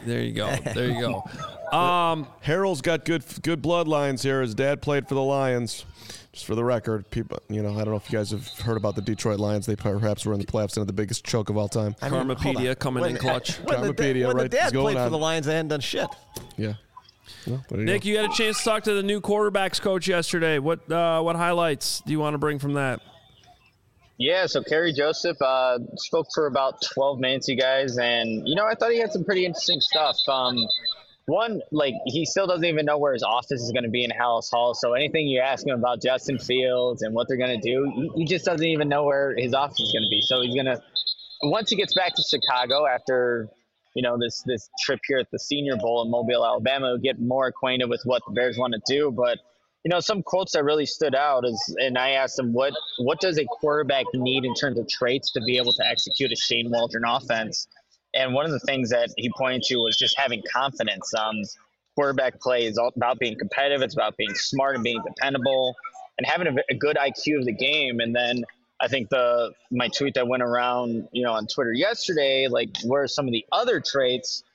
There you go. There you go. Harold's got good bloodlines here. His dad played for the Lions. Just for the record, people, I don't know if you guys have heard about the Detroit Lions. They perhaps were in the playoffs and had the biggest choke of all time. Karmapedia coming in clutch. When the dad played for the Lions, they hadn't done shit. Yeah. Well, Nick, you had a chance to talk to the new quarterbacks coach yesterday. What highlights do you want to bring from that? Yeah, so Kerry Joseph spoke for about 12 minutes, you guys, and I thought he had some pretty interesting stuff. One, he still doesn't even know where his office is going to be in Hallis Hall. So anything you ask him about Justin Fields and what they're going to do, he just doesn't even know where his office is going to be. So he's going to, once he gets back to Chicago after, this trip here at the Senior Bowl in Mobile, Alabama, he'll get more acquainted with what the Bears want to do. But, some quotes that really stood out and I asked him, what does a quarterback need in terms of traits to be able to execute a Shane Waldron offense? And one of the things that he pointed to was just having confidence. Quarterback play is all about being competitive. It's about being smart and being dependable and having a good IQ of the game. And then I think my tweet that went around, on Twitter yesterday, where are some of the other traits?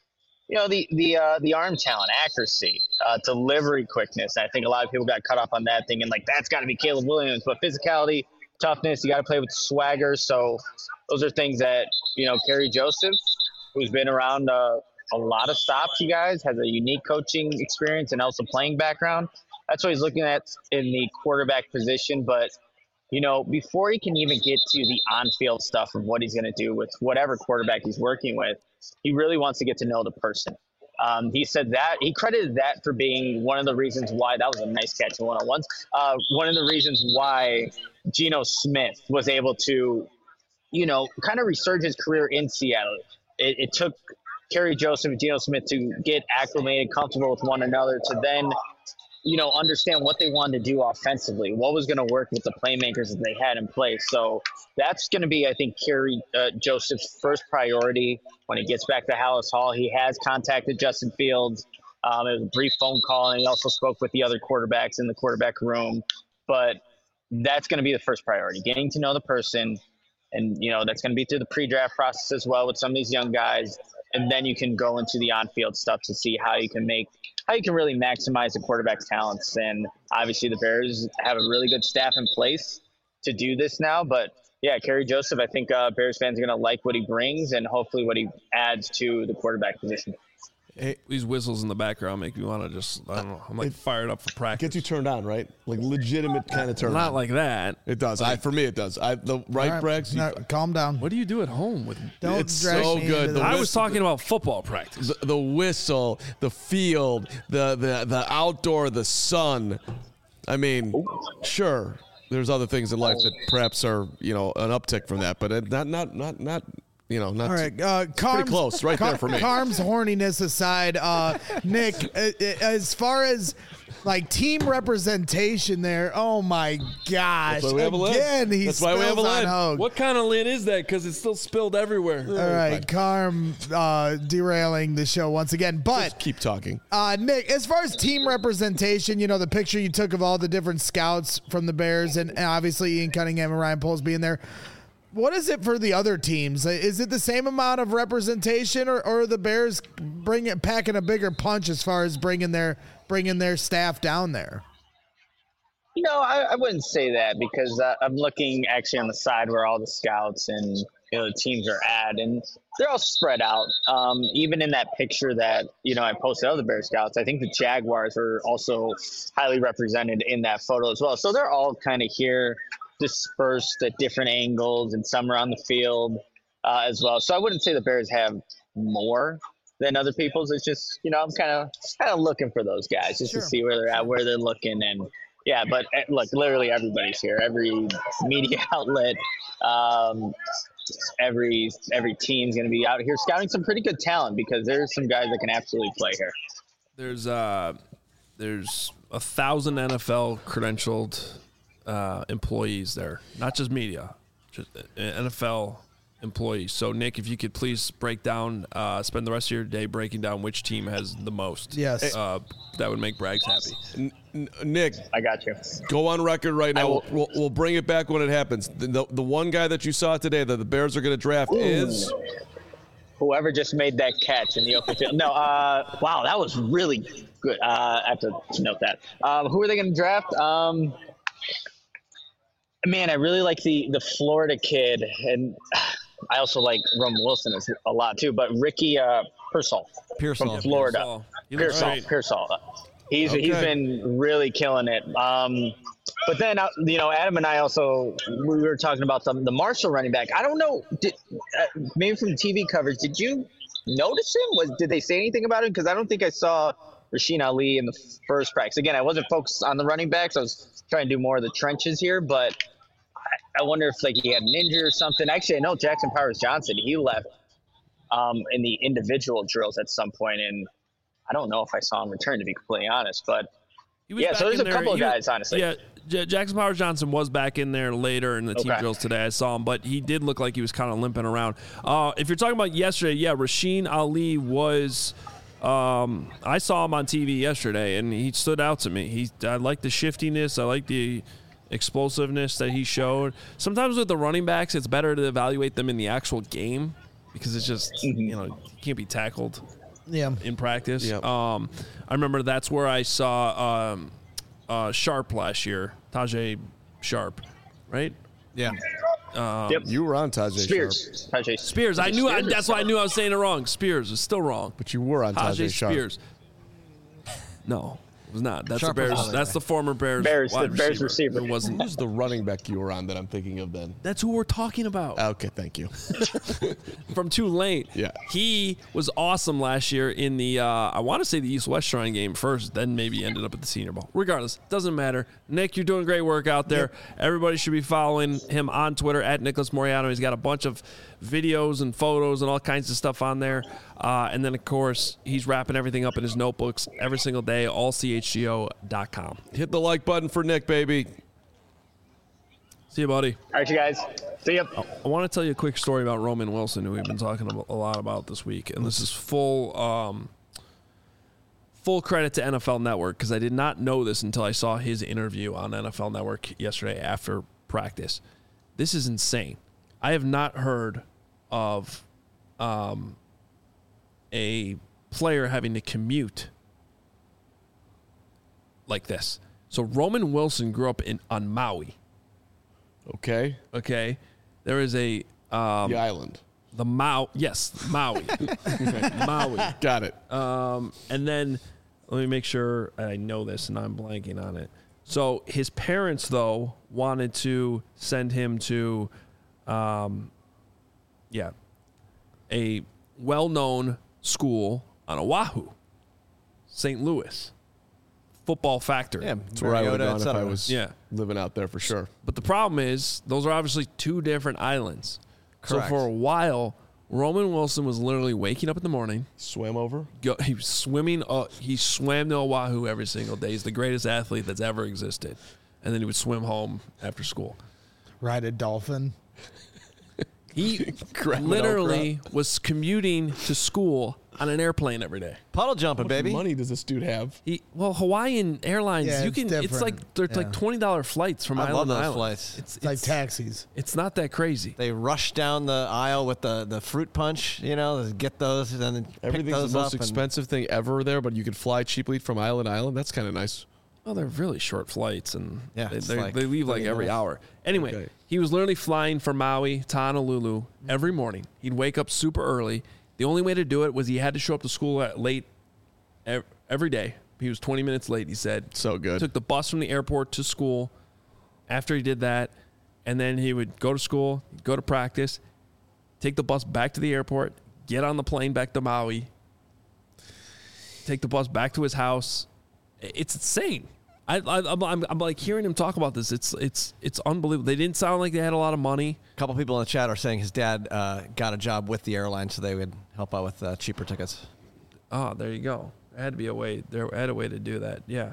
The arm talent, accuracy, delivery quickness. I think a lot of people got caught up on that thinking that's got to be Caleb Williams. But physicality, toughness, you got to play with swagger. So those are things that, Kerry Joseph, who's been around a lot of stops, you guys, has a unique coaching experience and also playing background. That's what he's looking at in the quarterback position. But, before he can even get to the on-field stuff of what he's going to do with whatever quarterback he's working with, he really wants to get to know the person. He said that he credited that for being one of the reasons why that was a nice catch in one-on-ones. One of the reasons why Geno Smith was able to, kind of resurge his career in Seattle. It took Kerry Joseph and Geno Smith to get acclimated, comfortable with one another, to then, understand what they wanted to do offensively, what was going to work with the playmakers that they had in place. So that's going to be, I think, Kerry Joseph's first priority when he gets back to Hallis Hall. He has contacted Justin Fields. It was a brief phone call, and he also spoke with the other quarterbacks in the quarterback room. But that's going to be the first priority, getting to know the person. And, that's going to be through the pre-draft process as well with some of these young guys. And then you can go into the on-field stuff to see how you can really maximize the quarterback's talents. And obviously the Bears have a really good staff in place to do this now. But, yeah, Kerry Joseph, I think Bears fans are going to like what he brings and hopefully what he adds to the quarterback position. Hey, these whistles in the background make me want to just, I don't know, I'm fired up for practice. Gets you turned on, right? Legitimate kind of turn on. Not like that. It does. For me, it does. Brax? No, calm down. What do you do at home with Don't it's drag so me good. into I this. was talking about football practice. The whistle, the field, the outdoor, the sun. I mean, sure, there's other things in life that perhaps are, an uptick from that, but not. Not all right. pretty close, right there for me. Carm's horniness aside, Nick, as far as team representation there, oh my gosh! That's why we have a lid. Again, he That's why we have a spills on lid. Hogue. What kind of lid is that? Because it's still spilled everywhere. All right, Carm derailing the show once again. But Just keep talking. Nick, as far as team representation, the picture you took of all the different scouts from the Bears and obviously Ian Cunningham and Ryan Poles being there. What is it for the other teams? Is it the same amount of representation, or are the Bears packing a bigger punch as far as bringing their staff down there? I wouldn't say that because I'm looking actually on the side where all the scouts and the teams are at, and they're all spread out. Even in that picture that I posted of the Bear Scouts, I think the Jaguars were also highly represented in that photo as well. So they're all kind of here, dispersed at different angles, and some are on the field as well. So I wouldn't say the Bears have more than other people's. It's just, I'm kind of looking for those guys just to see where they're at, where they're looking. And yeah, but look, literally everybody's here, every media outlet, every team's going to be out here scouting some pretty good talent because there's some guys that can absolutely play here. There's 1,000 NFL credentialed employees there, not just media, just NFL employees. So Nick, if you could please break down, spend the rest of your day breaking down which team has the most. Yes. That would make Braggs happy. Nick, I got you. go on record right now. We'll bring it back when it happens. The one guy that you saw today that the Bears are going to draft is whoever just made that catch in the open field. No, wow, that was really good. I have to note that. Who are they going to draft? Man, I really like the Florida kid, and I also like Roman Wilson a lot too. But Ricky Pearsall from Florida. Pearsall. He's been really killing it. But then Adam and I also we were talking about the Marshall running back. I don't know, maybe from TV coverage, did you notice him? Did they say anything about him? Because I don't think I saw Rasheen Ali in the first practice. Again, I wasn't focused on the running backs. I was trying to do more of the trenches here, but I wonder if he had an injury or something. Actually, I know Jackson Powers Johnson, he left in the individual drills at some point, and I don't know if I saw him return, to be completely honest. But yeah, so there's a couple of guys, honestly. Yeah, Jackson Powers Johnson was back in there later in the team drills today. I saw him, but he did look like he was kind of limping around. If you're talking about yesterday, yeah, Rasheen Ali was. I saw him on TV yesterday, and he stood out to me. I like the shiftiness. I like the explosiveness that he showed. Sometimes with the running backs, it's better to evaluate them in the actual game because it's just you can't be tackled. Yeah. In practice. Yep. I remember that's where I saw Sharp last year, Tajay Sharp, right? Yeah. Yep. You were on Tajay Spears. Sharp. Tajay Spears. That's why I knew I was saying it wrong. Spears is still wrong. But you were on Tajay Sharp. Spears. No, it was not. That's Sharp the Bears. was That's the former Bears receiver. It wasn't. Who's the running back you were on that I'm thinking of then? That's who we're talking about. Okay, thank you. From Tulane. Yeah. He was awesome last year in the, I want to say the East-West Shrine game first, then maybe ended up at the Senior Bowl. Regardless, doesn't matter. Nick, you're doing great work out there. Yep. Everybody should be following him on Twitter at Nicholas Moriano. He's got a bunch of videos and photos and all kinds of stuff on there. And then, of course, he's wrapping everything up in his notebooks every single day, allchgo.com. Hit the like button for Nick, baby. See you, buddy. All right, you guys. See ya. I want to tell you a quick story about Roman Wilson, who we've been talking a lot about this week. And this is full credit to NFL Network, because I did not know this until I saw his interview on NFL Network yesterday after practice. This is insane. I have not heard of a player having to commute like this. So Roman Wilson grew up on Maui. Okay. There is the island. Maui. Maui. Got it. And then let me make sure I know this and I'm blanking on it. So his parents, though, wanted to send him to a well-known school on Oahu, St. Louis. Football factory. Yeah, that's where I would have gone if I was living out there for sure. But the problem is, those are obviously two different islands. Correct. So for a while, Roman Wilson was literally waking up in the morning. Swam over? He was swimming. He swam to Oahu every single day. He's the greatest athlete that's ever existed. And then he would swim home after school. Ride a dolphin. He literally was commuting to school on an airplane every day. Puddle jumping, baby. What money does this dude have? Hawaiian Airlines, Yeah, you can. It's like they're like $20 flights from I island love to those island. flights. It's like taxis. It's not that crazy. They rush down the aisle with the fruit punch, get those and then Everything's pick those the most up expensive thing ever there, but you could fly cheaply from island to island. That's kind of nice. Well, they're really short flights, and they leave like every hour. Anyway, he was literally flying from Maui to Honolulu every morning. He'd wake up super early. The only way to do it was he had to show up to school late every day. He was 20 minutes late, he said. So good. Took the bus from the airport to school. After he did that, and then he would go to school, go to practice, take the bus back to the airport, get on the plane back to Maui, take the bus back to his house. It's insane. I'm like hearing him talk about this. It's unbelievable. They didn't sound like they had a lot of money. A couple people in the chat are saying his dad got a job with the airline, so they would help out with cheaper tickets. Oh, there you go. There had to be a way. There had a way to do that. Yeah,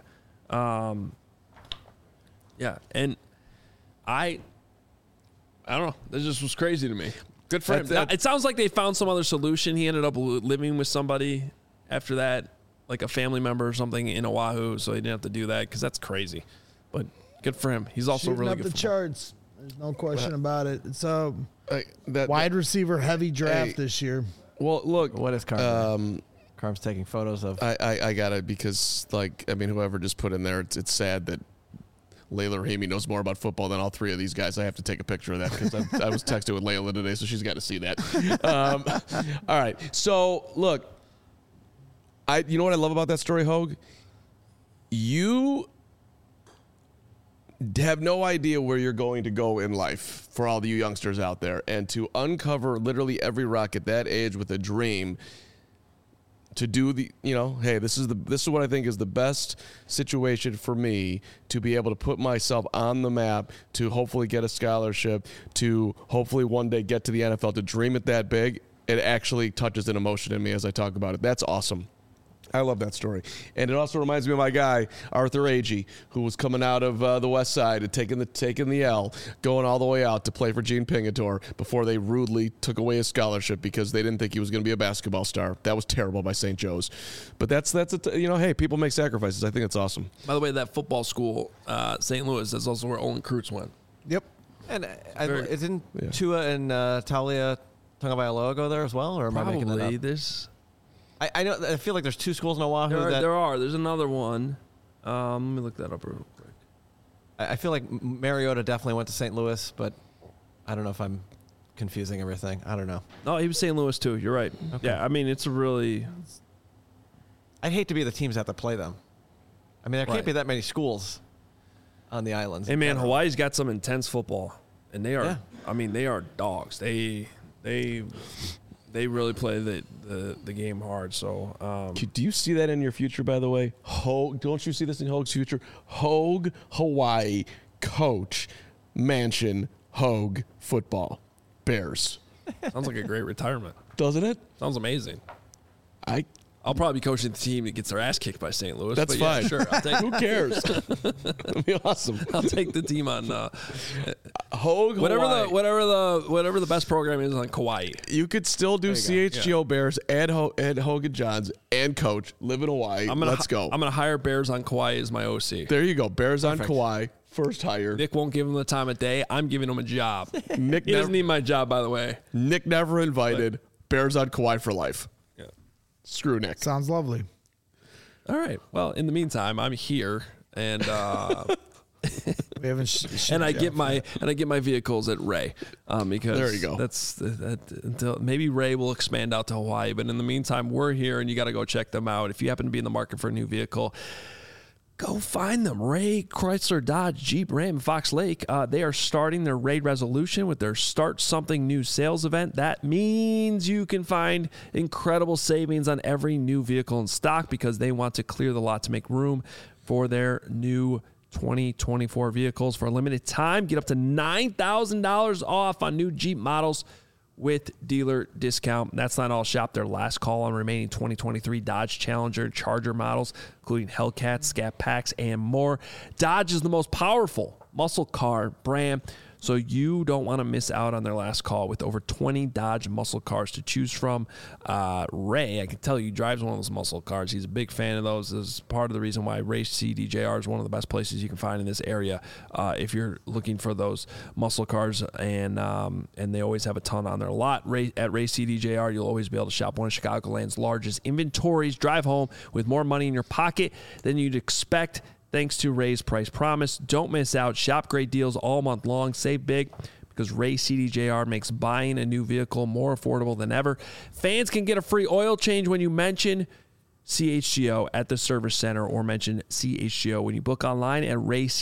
yeah. And I don't know. This just was crazy to me. Good for him. It sounds like they found some other solution. He ended up living with somebody after that, like a family member or something in Oahu, so he didn't have to do that because that's crazy. But good for him. He's also Shooting really up good. The charts. There's no question about it. It's a That wide receiver heavy draft this year. Well, look. What is Carm? Carm's taking photos of. I got it because, whoever just put in there, it's sad that Layla Rahimi knows more about football than all three of these guys. I have to take a picture of that because I was texting with Layla today, so she's got to see that. All right. So, look, you know what I love about that story, Hogue? You have no idea where you're going to go in life for all the you youngsters out there. And to uncover literally every rock at that age with a dream to do hey, this is what I think is the best situation for me to be able to put myself on the map, to hopefully get a scholarship, to hopefully one day get to the NFL, to dream it that big. It actually touches an emotion in me as I talk about it. That's awesome. I love that story. And it also reminds me of my guy, Arthur Agee, who was coming out of the West Side and taking the L, going all the way out to play for Gene Pingatore before they rudely took away his scholarship because they didn't think he was going to be a basketball star. That was terrible by St. Joe's. But hey, people make sacrifices. I think it's awesome. By the way, that football school, St. Louis, that's also where Olin Kreutz went. Yep. And isn't Tua and Talia Tagovailoa go there as well? Or am I making that up? There's... I know. I feel like there's two schools in Oahu. There are. There's another one. Let me look that up real quick. I feel like Mariota definitely went to St. Louis, but I don't know if I'm confusing everything. I don't know. No, he was St. Louis too. You're right. Okay. Yeah, I mean, it's a really... I'd hate to be the teams that have to play them. I mean, there can't be that many schools on the islands. Hey, man, Hawaii's got some intense football, and they are... Yeah. I mean, they are dogs. They really play the game hard. So, do you see that in your future? By the way, Hogue, don't you see this in Hogue's future? Hogue, Hawaii, coach, mansion, Hogue, football, Bears. Sounds like a great retirement, doesn't it? Sounds amazing. I'll probably be coaching the team that gets their ass kicked by St. Louis. That's fine. Yeah, sure. I'll take Who cares? That'd be awesome. I'll take the team on Hogue, whatever the best program is on Kauai. You could still do CHGO Bears and Hogan Johns and coach. Live in Hawaii. Let's go. I'm gonna hire Bears on Kauai as my OC. There you go. Bears on Kauai. First hire. Nick won't give him the time of day. I'm giving him a job. He doesn't need my job, by the way. Nick never invited. Bears on Kauai for life. Screw Nick. Sounds lovely. All right. Well, in the meantime, I'm here, and we haven't. I get my vehicles at Ray, because there you go. That's until maybe Ray will expand out to Hawaii. But in the meantime, we're here, and you got to go check them out. If you happen to be in the market for a new vehicle, go find them. Ray Chrysler Dodge Jeep Ram Fox Lake. They are starting their Raid Resolution with their Start Something New sales event. That means you can find incredible savings on every new vehicle in stock because they want to clear the lot to make room for their new 2024 vehicles. For a limited time, get up to $9,000 off on new Jeep models with dealer discount. That's not all. Shop their last call on remaining 2023 Dodge Challenger and Charger models, including Hellcats, Scat Packs, and more. Dodge is the most powerful muscle car brand, so you don't want to miss out on their last call with over 20 Dodge muscle cars to choose from. Ray, I can tell you, drives one of those muscle cars. He's a big fan of those. This is part of the reason why Ray CDJR is one of the best places you can find in this area if you're looking for those muscle cars, and they always have a ton on their lot. At Ray CDJR, you'll always be able to shop one of Chicagoland's largest inventories. Drive home with more money in your pocket than you'd expect, thanks to Ray's Price Promise. Don't miss out. Shop great deals all month long. Save big because Ray CDJR makes buying a new vehicle more affordable than ever. Fans can get a free oil change when you mention CHGO at the service center or mention CHGO when you book online at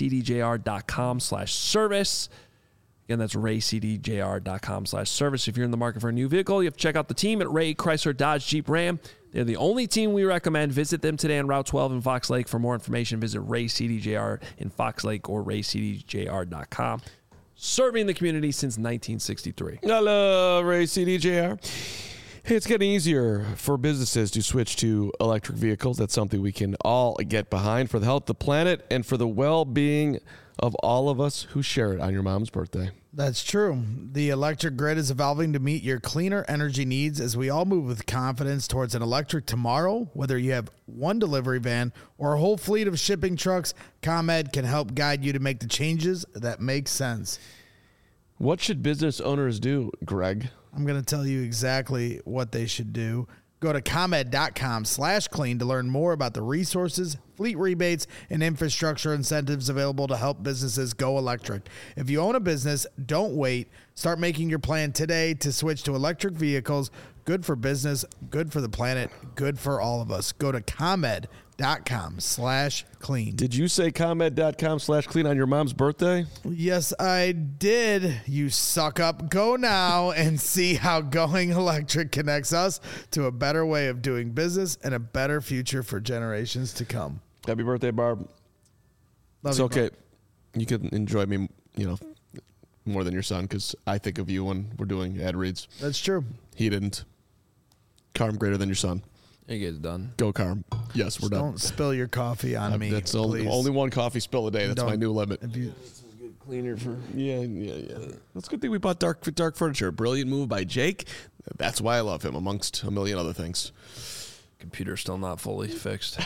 raycdjr.com/service. Again, that's raycdjr.com/service. If you're in the market for a new vehicle, you have to check out the team at Ray Chrysler Dodge Jeep Ram. They're the only team we recommend. Visit them today on Route 12 in Fox Lake. For more information, visit Ray CDJR in Fox Lake or raycdjr.com. Serving the community since 1963. Hello, Ray CDJR. Hey, it's getting easier for businesses to switch to electric vehicles. That's something we can all get behind for the health of the planet and for the well-being of all of us who share it on your mom's birthday. That's true. The electric grid is evolving to meet your cleaner energy needs as we all move with confidence towards an electric tomorrow. Whether you have one delivery van or a whole fleet of shipping trucks, ComEd can help guide you to make the changes that make sense. What should business owners do, Greg? I'm going to tell you exactly what they should do. Go to ComEd.com/clean to learn more about the resources, fleet rebates, and infrastructure incentives available to help businesses go electric. If you own a business, don't wait. Start making your plan today to switch to electric vehicles. Good for business, good for the planet, good for all of us. Go to ComEd.com/clean. Did you say ComEd.com/clean on your mom's birthday? Yes, I did. You suck up. Go now and see how going electric connects us to a better way of doing business and a better future for generations to come. Happy birthday, Barb. Love It's you, okay. Bob. You can enjoy me, more than your son, because I think of you when we're doing ad reads. That's true. He didn't. Carm greater than your son. You guys done? Go, Carm. Yes, we're done. Don't spill your coffee on me. That's please. only one coffee spill a day. That's my Don't. new limit. If you, Cleaner for. Yeah. That's a good thing we bought dark furniture. Brilliant move by Jake. That's why I love him, amongst a million other things. Computer's still not fully fixed.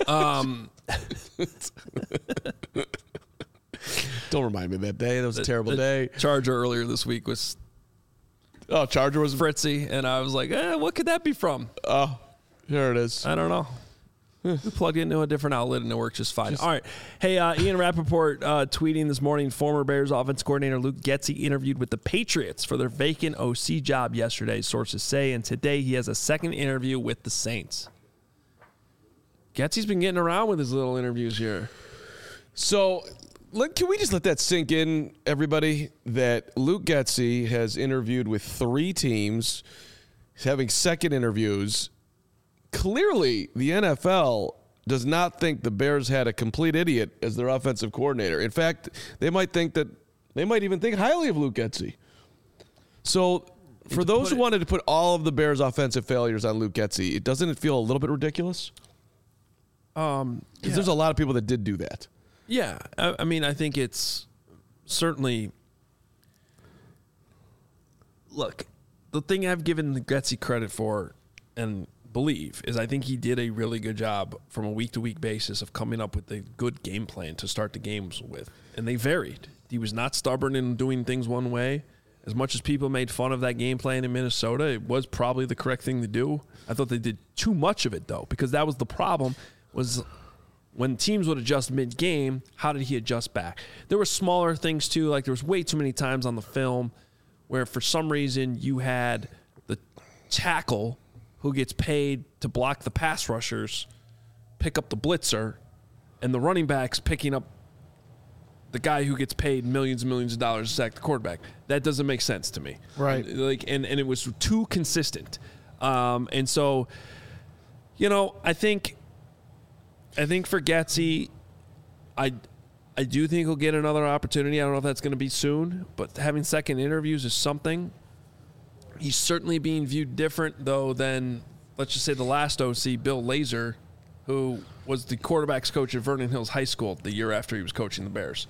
Don't remind me of that day. That was a terrible day. Charger earlier this week was Oh, Charger was. Fritzy, and I was like, what could that be from? Oh, here it is. I don't know. We plugged into a different outlet and it works just fine. All right. Hey, Ian Rappaport tweeting this morning, former Bears offense coordinator Luke Getsy interviewed with the Patriots for their vacant OC job yesterday, sources say, and today he has a second interview with the Saints. Getsy's been getting around with his little interviews here. So, can we just let that sink in, everybody, that Luke Getsy has interviewed with 3 teams. He's having second interviews. Clearly, the NFL does not think the Bears had a complete idiot as their offensive coordinator. In fact, they might even think highly of Luke Getsy. So, for those who wanted to put all of the Bears' offensive failures on Luke Getsy, doesn't it feel a little bit ridiculous? Because there's a lot of people that did do that. Yeah. I mean, I think it's certainly. Look, the thing I've given Getsy credit for and believe is I think he did a really good job from a week-to-week basis of coming up with a good game plan to start the games with. And they varied. He was not stubborn in doing things one way. As much as people made fun of that game plan in Minnesota, it was probably the correct thing to do. I thought they did too much of it, though, because that was the problem, was when teams would adjust mid-game, how did he adjust back? There were smaller things, too. Like there was way too many times on the film where for some reason you had the tackle who gets paid to block the pass rushers pick up the blitzer, and the running back's picking up the guy who gets paid millions and millions of dollars to sack the quarterback. That doesn't make sense to me. Right. And it was too consistent. And so, I think for Getsy, I do think he'll get another opportunity. I don't know if that's going to be soon, but having second interviews is something. He's certainly being viewed different, though, than, let's just say, the last OC, Bill Lazor, who was the quarterback's coach at Vernon Hills High School the year after he was coaching the Bears.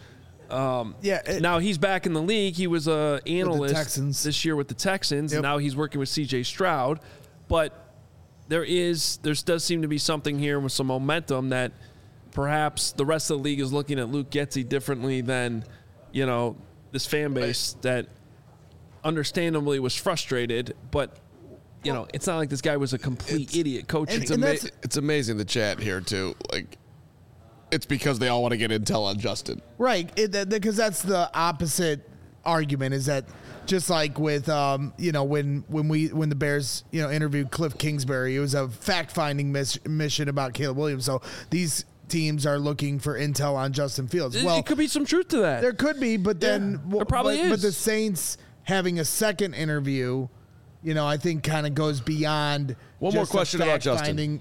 Now he's back in the league. He was an analyst this year with the Texans, and now he's working with C.J. Stroud. But there does seem to be something here with some momentum that perhaps the rest of the league is looking at Luke Getsy differently than, this fan base that understandably was frustrated, but it's not like this guy was a complete idiot coaching. It's amazing the chat here too. Like, it's because they all want to get intel on Justin, right? Because that's the opposite argument. Is that just like with when the Bears interviewed Cliff Kingsbury, it was a fact finding mission about Caleb Williams. So these teams are looking for intel on Justin Fields. Well, it could be some truth to that. There could be, but then there probably is. But the Saints having a second interview, I think kind of goes beyond. One more question about Justin. Finding,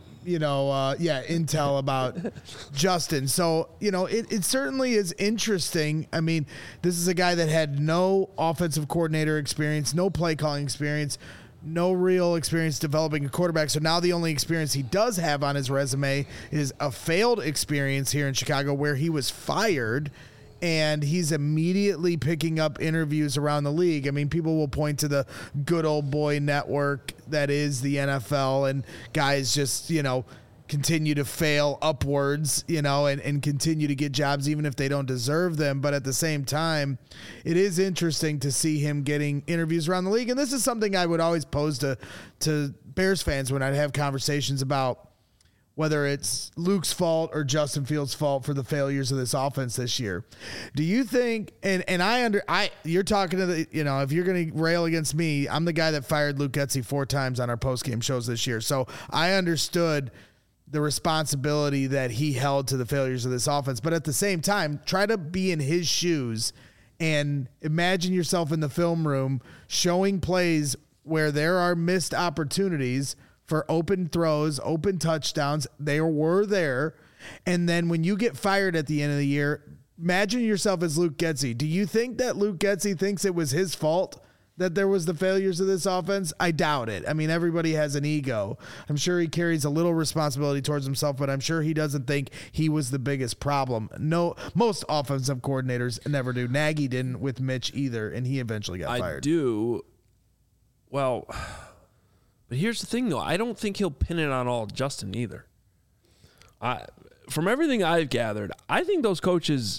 intel about Justin. So, it certainly is interesting. I mean, this is a guy that had no offensive coordinator experience, no play calling experience, no real experience developing a quarterback. So now the only experience he does have on his resume is a failed experience here in Chicago where he was fired. And he's immediately picking up interviews around the league. I mean, people will point to the good old boy network that is the NFL, and guys just, continue to fail upwards, and continue to get jobs even if they don't deserve them. But at the same time, it is interesting to see him getting interviews around the league. And this is something I would always pose to Bears fans when I'd have conversations about whether it's Luke's fault or Justin Fields' fault for the failures of this offense this year. Do you think, and you're talking to the, if you're going to rail against me, I'm the guy that fired Luke Getsy 4 times on our post-game shows this year. So I understood the responsibility that he held to the failures of this offense. But at the same time, try to be in his shoes and imagine yourself in the film room showing plays where there are missed opportunities for open throws, open touchdowns. They were there. And then when you get fired at the end of the year, imagine yourself as Luke Getsy. Do you think that Luke Getsy thinks it was his fault that there was the failures of this offense? I doubt it. I mean, everybody has an ego. I'm sure he carries a little responsibility towards himself, but I'm sure he doesn't think he was the biggest problem. No, most offensive coordinators never do. Nagy didn't with Mitch either, and he eventually got fired. I do. Well, but here's the thing, though. I don't think he'll pin it on all Justin either. From everything I've gathered, I think those coaches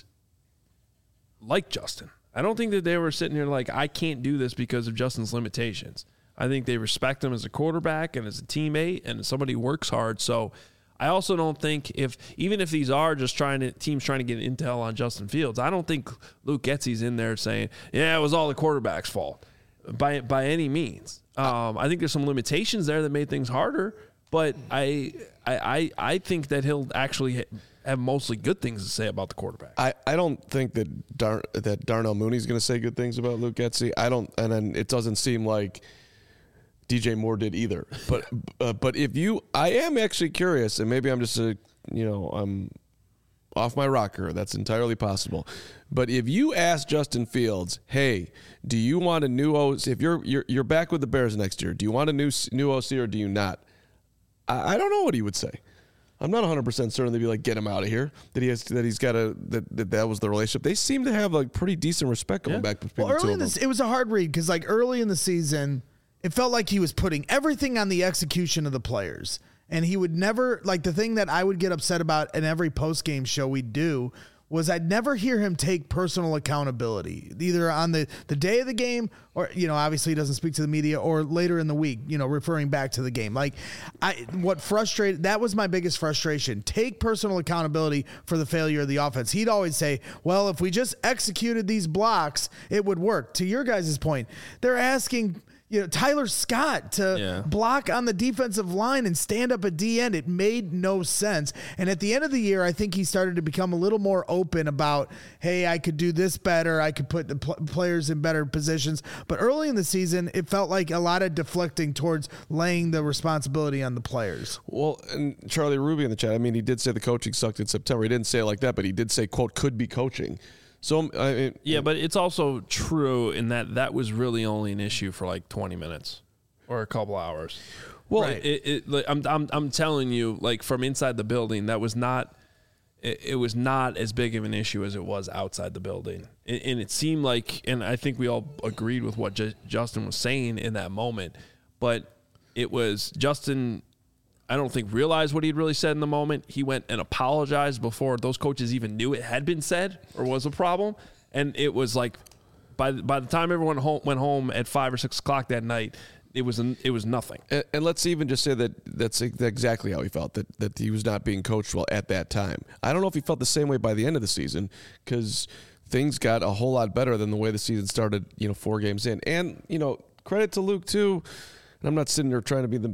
like Justin. I don't think that they were sitting here like, I can't do this because of Justin's limitations. I think they respect him as a quarterback and as a teammate and as somebody who works hard. So I also don't think even if these are just teams trying to get intel on Justin Fields, I don't think Luke Getsy's in there saying, yeah, it was all the quarterback's fault by any means. I think there's some limitations there that made things harder, but I think that he'll actually have mostly good things to say about the quarterback. I don't think that Darnell Mooney's going to say good things about Luke Getsy. And then it doesn't seem like DJ Moore did either. But I am actually curious, and maybe I'm just I'm off my rocker. That's entirely possible. But if you ask Justin Fields, hey, do you want a new OC? If you're back with the Bears next year, do you want a new OC or do you not? I don't know what he would say. I'm not 100% certain they'd be like, get him out of here. That was the relationship. They seem to have like pretty decent respect going back between the two of them. It was a hard read because like early in the season, it felt like he was putting everything on the execution of the players. And he would never, like the thing that I would get upset about in every post-game show we do was I'd never hear him take personal accountability, either on the day of the game or, obviously he doesn't speak to the media, or later in the week, referring back to the game. Like that was my biggest frustration. Take personal accountability for the failure of the offense. He'd always say, well, if we just executed these blocks, it would work. To your guys' point, they're asking Tyler Scott to block on the defensive line and stand up at D end. It made no sense. And at the end of the year, I think he started to become a little more open about, hey, I could do this better. I could put the players in better positions. But early in the season, it felt like a lot of deflecting towards laying the responsibility on the players. Well, and Charlie Ruby in the chat, I mean, he did say the coaching sucked in September. He didn't say it like that, but he did say, quote, could be coaching. So but it's also true in that was really only an issue for like 20 minutes or a couple hours. Well, right. I'm telling you, like from inside the building, that was not. It was not as big of an issue as it was outside the building, and it seemed like, and I think we all agreed with what Justin was saying in that moment, but it was Justin. I don't think realized what he'd really said in the moment. He went and apologized before those coaches even knew it had been said or was a problem. And it was like by the time everyone went home at 5 or 6 o'clock that night, it was nothing. And let's even just say that's exactly how he felt, that he was not being coached well at that time. I don't know if he felt the same way by the end of the season because things got a whole lot better than the way the season started, 4 games in. And, credit to Luke too. And I'm not sitting there trying to be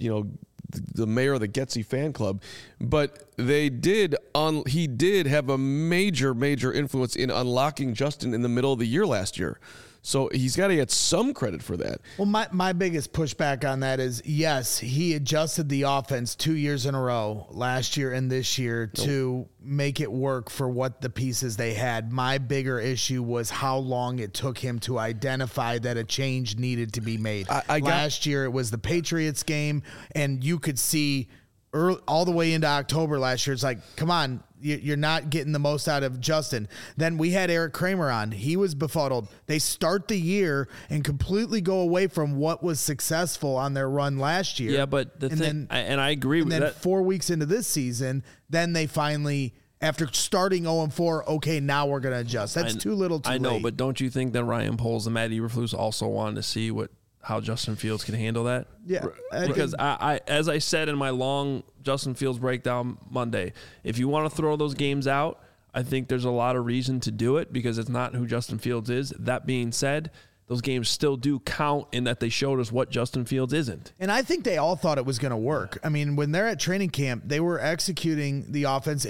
the mayor of the Getsy fan club, but he did have a major influence in unlocking Justin in the middle of the year last year. So he's got to get some credit for that. Well, my biggest pushback on that is, yes, he adjusted the offense 2 years in a row, last year and this year, to make it work for what the pieces they had. My bigger issue was how long it took him to identify that a change needed to be made. Last year, it was the Patriots game, and you could see all the way into October last year. It's like, come on, you're not getting the most out of Justin. Then we had Eric Kramer on. He was befuddled. They start the year and completely go away from what was successful on their run last year. Yeah, but I agree with that. And then 4 weeks into this season, then they finally, after starting 0-4, okay, now we're going to adjust. That's too little too late. I know, but don't you think that Ryan Poles and Matt Eberflus also wanted to see how Justin Fields can handle that? Yeah. Because I as I said in my long Justin Fields breakdown Monday, if you want to throw those games out, I think there's a lot of reason to do it because it's not who Justin Fields is. That being said, those games still do count in that they showed us what Justin Fields isn't. And I think they all thought it was going to work. I mean, when they're at training camp, they were executing the offense.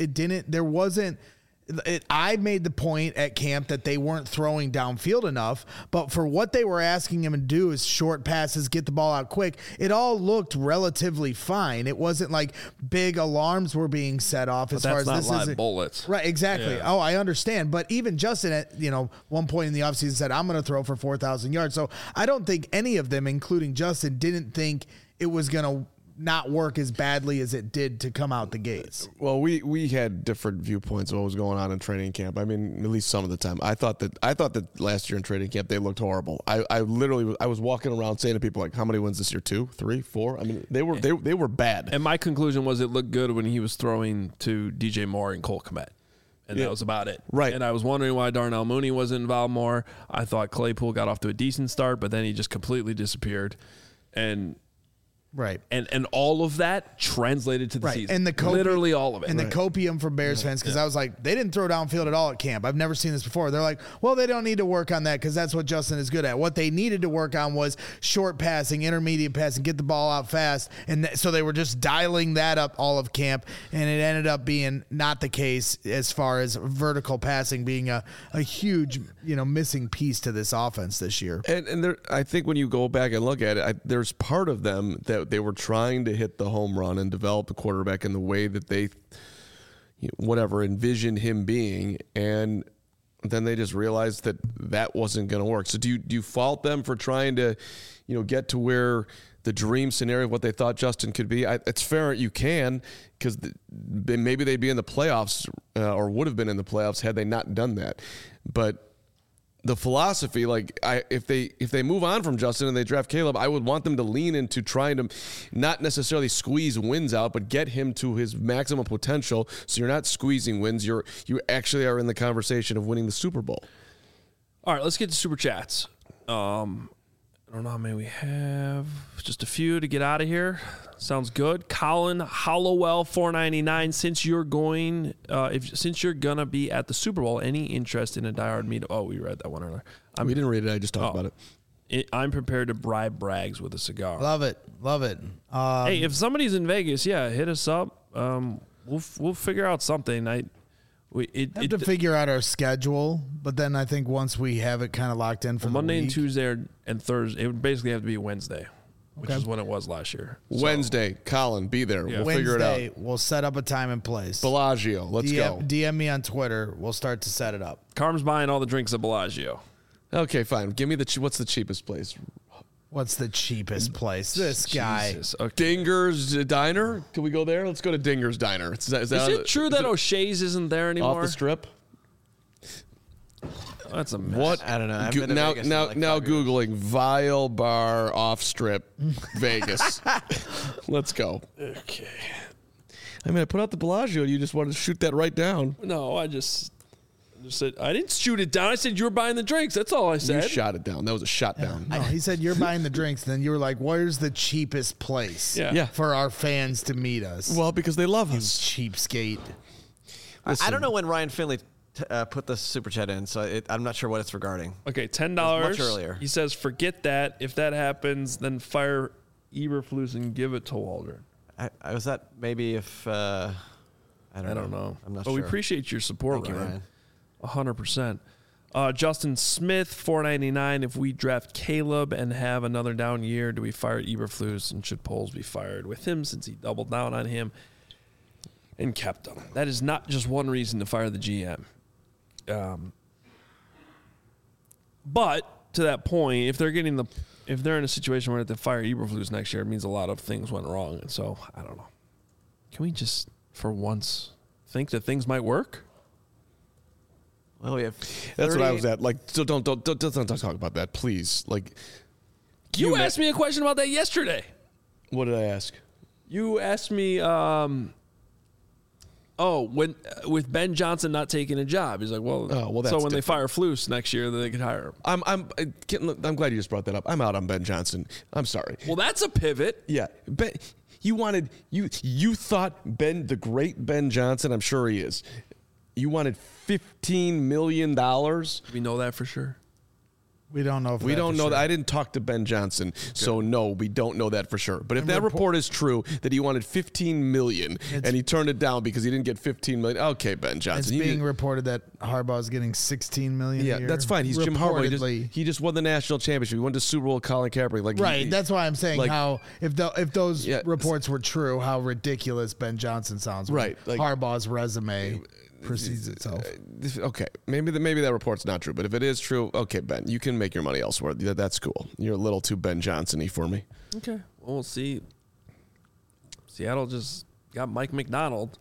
I made the point at camp that they weren't throwing downfield enough, but for what they were asking him to do is short passes, get the ball out quick. It all looked relatively fine. It wasn't like big alarms were being set off as far as this is bullets. Right, exactly. Yeah. Oh, I understand. But even Justin at, one point in the offseason said, I'm going to throw for 4,000 yards. So I don't think any of them, including Justin, didn't think it was going to not work as badly as it did to come out the gates. Well, we had different viewpoints of what was going on in training camp. I mean, at least some of the time. I thought that last year in training camp they looked horrible. I literally was walking around saying to people like, how many wins this year? 2, 3, 4? I mean, they were bad. And my conclusion was it looked good when he was throwing to DJ Moore and Cole Kmet. And that was about it. Right. And I was wondering why Darnell Mooney wasn't involved more. I thought Claypool got off to a decent start, but then he just completely disappeared. And Right. And all of that translated to the season. And literally all of it. And the copium for Bears fans, because I was like, they didn't throw downfield at all at camp. I've never seen this before. They're like, well, they don't need to work on that because that's what Justin is good at. What they needed to work on was short passing, intermediate passing, get the ball out fast. And so they were just dialing that up all of camp. And it ended up being not the case as far as vertical passing being a huge, missing piece to this offense this year. And there, I think when you go back and look at it, there's part of them that they were trying to hit the home run and develop the quarterback in the way that they, envisioned him being, and then they just realized that wasn't going to work. So do you fault them for trying to, get to where the dream scenario of what they thought Justin could be? It's fair you can, because maybe they'd be in the playoffs or would have been in the playoffs had they not done that. But the philosophy, if they move on from Justin and they draft Caleb, I would want them to lean into trying to not necessarily squeeze wins out, but get him to his maximum potential. So you're not squeezing wins. You actually are in the conversation of winning the Super Bowl. All right, let's get to Super Chats. I don't know how many we have. Just a few to get out of here. Sounds good. Colin Hollowell, $4.99. Since you're gonna be at the Super Bowl, any interest in a diehard meetup? Oh, we read that one earlier. We didn't read it. I just talked about it. I'm prepared to bribe Braggs with a cigar. Love it. Hey, if somebody's in Vegas, hit us up. We'll figure out something. We have to figure out our schedule, but then I think once we have it kind of locked in for Monday the week, and Tuesday and Thursday, it would basically have to be Wednesday, which is when it was last year. Wednesday, Colin, be there. Yeah. We'll figure it out. We'll set up a time and place. Bellagio, let's go. DM me on Twitter. We'll start to set it up. Carm's buying all the drinks at Bellagio. Okay, fine. Give me what's the cheapest place? What's the cheapest place? This guy. Jesus. Okay. Dinger's Diner? Can we go there? Let's go to Dinger's Diner. Is it true that O'Shea's isn't there anymore? Off the strip? That's a mess. What? I don't know. I've been to Vegas in now like 5 years. Googling Vile Bar Off Strip Vegas. Let's go. Okay. I mean, I put out the Bellagio and you just wanted to shoot that right down. No, I just said, I didn't shoot it down. I said you were buying the drinks. That's all I said. You shot it down. That was a shot down. No, he said you're buying the drinks. Then you were like, where's the cheapest place Yeah. for our fans to meet us? Well, because they love us. Cheapskate. I don't know when Ryan Finley put the super chat in, so I'm not sure what it's regarding. Okay, $10. Much earlier. He says, forget that. If that happens, then fire Eberflus and give it to Waldron. I was that maybe if I don't know. I'm not but sure. we appreciate your support, Thank you, Ryan. 100%. Justin Smith, $4.99. If we draft Caleb and have another down year, do we fire Eberflus, and should Poles be fired with him since he doubled down on him and kept him? That is not just one reason to fire the GM. But to that point, if they're in a situation where they have to fire Eberflus next year, it means a lot of things went wrong. And so I don't know. Can we just, for once, think that things might work? Well, we have. That's what I 38 was at. Like, so don't talk about that, please. Like, You asked me a question about that yesterday. what did I ask? You asked me, with Ben Johnson not taking a job, he's like, well, Oh, well, so that's when they different. fire Flus next year, then they could hire him. I'm glad you just brought that up. I'm out on Ben Johnson. I'm sorry. Well, that's a pivot. Yeah, Ben, you thought the great Ben Johnson. I'm sure he is. You wanted $15 million. We know that for sure. We don't know. We don't know that. I didn't talk to Ben Johnson, so no, we don't know that for sure. But if that report is true, that he wanted $15 million and he turned it down because he didn't get $15 million, okay, Ben It's Johnson. being reported that Harbaugh is getting $16 million. Yeah, a year. that's fine. He's Jim Harbaugh. Reportedly. He just won the national championship. He went to Super Bowl with Colin Kaepernick. Like, Right. That's why I'm saying like- how if those Yeah. reports were true, how ridiculous Ben Johnson sounds. when Right, like- Harbaugh's resume precedes itself. Okay, maybe that report's not true, but if it is true, okay, Ben, you can make your money elsewhere. That's cool. You're a little too Ben Johnson-y for me. Okay. Well, we'll see. Seattle just got Mike McDonald.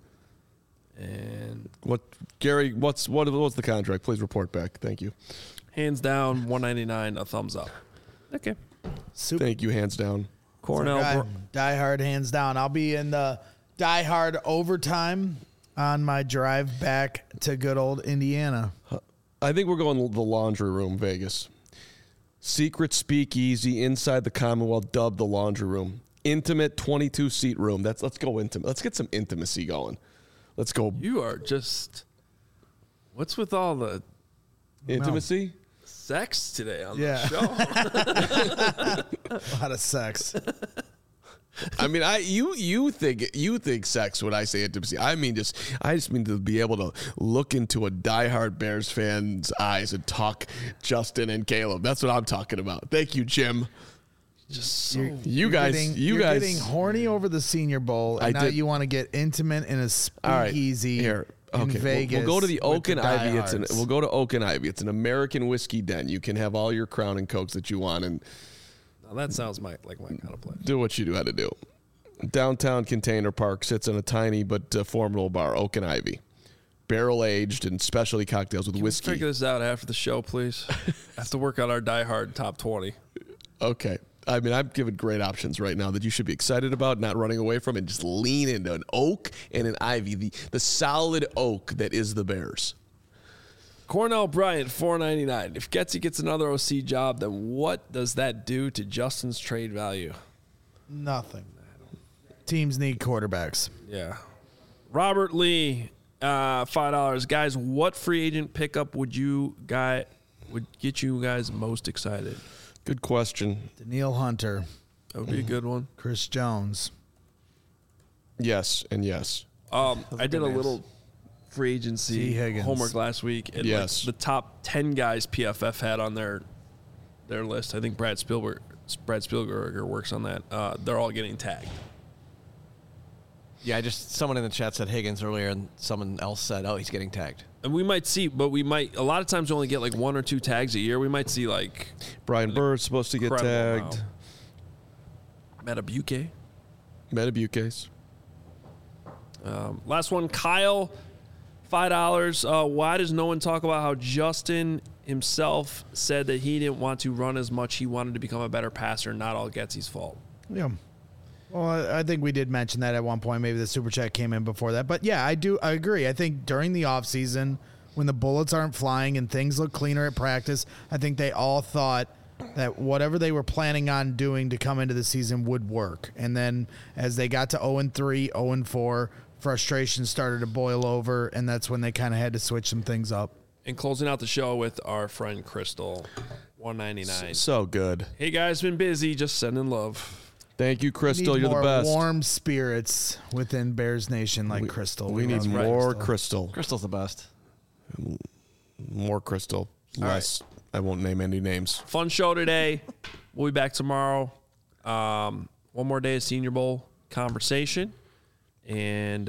And Gary? What's the contract? Please report back. Thank you. hands down, $199, a thumbs up. Okay. Super. Thank you. Hands down. Cornell. Die Hard hands down. I'll be in the Die Hard overtime on my drive back to good old Indiana. I think we're going the laundry room, Vegas. Secret speakeasy inside the Commonwealth, dubbed the laundry room. Intimate 22-seat room. Let's go intimate. Let's get some intimacy going. Let's go You are just. What's with all the intimacy. sex today on Yeah. the show? A lot of sex. I mean, you think sex when I say intimacy. I just mean to be able to look into a diehard Bears fan's eyes and talk Justin and Caleb. That's what I'm talking about. Thank you, Jim. Just so. You guys, You're getting horny over the Senior Bowl, and I now did- you want to get intimate in a All right, speakeasy here. in Okay, Vegas. we'll go to the with Oak and Ivy. diehards. We'll go to Oak and Ivy. It's an American whiskey den. You can have all your Crown and Cokes that you want and Now that sounds like my kind of place. do what you do how to do. Downtown Container Park sits in a tiny but formidable bar, Oak and Ivy. Barrel aged and specialty cocktails with whiskey. Figure this out after the show, please. I have to work out our Die Hard top 20. Okay. I mean, I'm giving great options right now that you should be excited about, not running away from, and just lean into an Oak and an Ivy, the solid oak that is the Bears. Cornell Bryant, $4.99. If Getsy gets another OC job, then what does that do to Justin's trade value? Nothing. Teams need quarterbacks. Yeah. Robert Lee, $5. Guys, what free agent pickup would get you guys most excited? Good question. Daniil Hunter, That would be a good one. Chris Jones. Yes and yes. I did a names. little free T. agency Higgins. homework last week, and Yes. like the top 10 guys PFF had on their list. I think Brad Spielberger works on that. They're all getting tagged. Yeah, someone in the chat said Higgins earlier, and someone else said, "Oh, he's getting tagged." And we might see, but a lot of times we only get like one or two tags a year. We might see like Brian Bird's supposed to get incredible tagged. Metabuke. Metabukes. Last one, Kyle, $5. Why does no one talk about how Justin himself said that he didn't want to run as much? He wanted to become a better passer. Not all Getsy's fault. Yeah. Well, I think we did mention that at one point. Maybe the super chat came in before that. But yeah, I agree. I think during the offseason, when the bullets aren't flying and things look cleaner at practice, I think they all thought that whatever they were planning on doing to come into the season would work. And then as they got to 0-3, 0-4, frustration started to boil over, and that's when they kind of had to switch some things up. And closing out the show with our friend Crystal, $1.99. So good. Hey guys, been busy. Just sending love. Thank you, Crystal. Need You're the more best. warm spirits within Bears Nation like Crystal. We need love more Crystal. Crystal's the best. More Crystal. Less. I won't name any names. Fun show today. We'll be back tomorrow. One more day of Senior Bowl conversation. And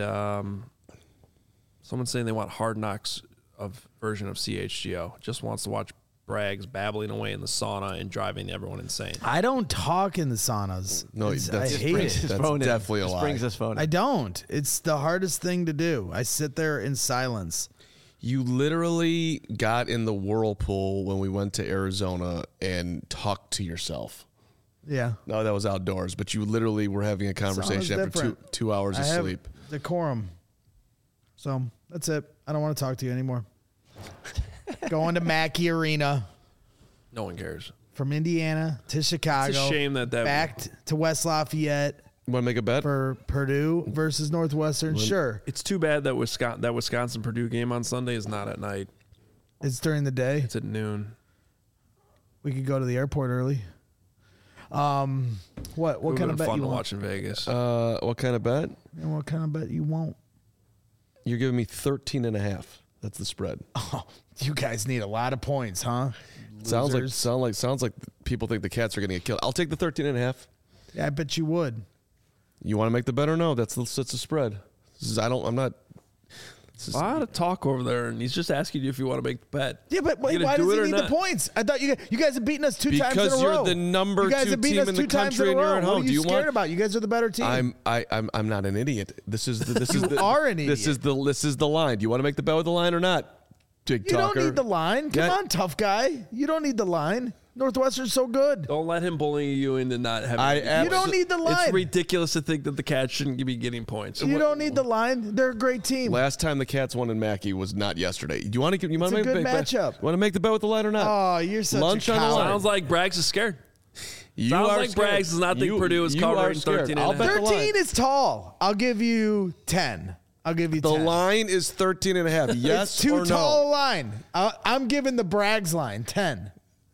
someone's saying they want Hard Knocks version of CHGO. Just wants to watch Braggs babbling away in the sauna and driving everyone insane. I don't talk in the saunas. No, I that's- hate Brings it. his That's phone in. definitely a Just lie. brings his phone in. I don't. It's the hardest thing to do. I sit there in silence. You literally got in the whirlpool when we went to Arizona and talked to yourself. Yeah. No, that was outdoors, but you literally were having a conversation after different. two hours I of have sleep. decorum. So that's it. I don't want to talk to you anymore. Going to Mackey Arena No one cares. from Indiana to Chicago. It's a shame that back to West Lafayette Want to make a bet? for Purdue versus Northwestern. Sure. It's too bad that Wisconsin Purdue game on Sunday is not at night. It's during the day. It's at noon. We could go to the airport early. What What kind of bet fun you to want? watch in Vegas? What kind of bet? And what kind of bet you won't? You're giving me 13.5. That's the spread. Oh, you guys need a lot of points, huh? Sounds Losers. like people think the Cats are going to get killed. I'll take the 13.5. Yeah, I bet you would. You want to make the bet or no? That's the spread. I'm not. A lot of talk over there, and he's just asking you if you want to make the bet. Yeah, but You wait, gonna why do does it he or need not? the points? I thought you guys have beaten us two times in a row. Because you're the number you guys 2 have beaten team us in the two times country in a and you're row. at What home. are Do you you scared want? about? You guys are the better team. I'm not an idiot. This is the You are an This is the line. Do you want to make the bet with the line or not? Big You talker. don't need the line. Come Yeah. on, tough guy. You don't need the line. Northwestern's so good. Don't let him bully you into not having. You don't need the line. It's ridiculous to think that the Cats shouldn't be getting points. You don't need the line. They're a great team. Last time the Cats won in Mackey was not yesterday. Do you want to? You want to It's a make good bet? matchup. You want to make the bet with the line or not? Oh, you're such Lunch a on the coward. line. Sounds like Braggs is scared. You Sounds are like scared. Braggs does not think You- Purdue is you covering are scared. 13 I'll and a half. bet the line. 13 is tall. I'll give you 10. I'll give you The 10. line is 13.5. Yes It's too or tall a no? line. I'm giving the Braggs line 10.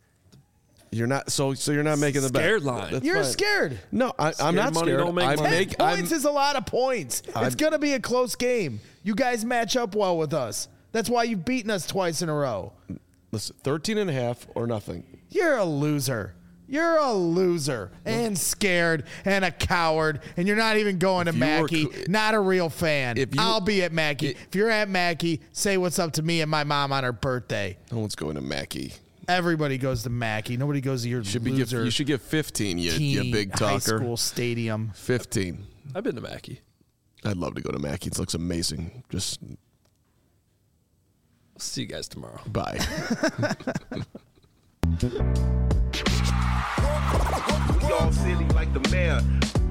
You're not. So you're not making the bet. Scared line. That's You're fine. scared. No, I'm not money scared. don't make I'm money. 10 points is a lot of points. It's going to be a close game. You guys match up well with us. That's why you've beaten us twice in a row. Listen, 13.5 or nothing. You're a loser. You're a loser and scared and a coward, and you're not even going to you were Mackey. Not a real fan. If you- I'll be at Mackey. If you're at Mackey, say what's up to me and my mom on her birthday. No one's going to Mackey. Everybody goes to Mackey. Nobody goes to your loser You should give 15. You teeny big high talker. school stadium. 15. I've been to Mackey. I'd love to go to Mackey. It looks amazing. Just See you guys tomorrow. bye. We all silly like the mayor.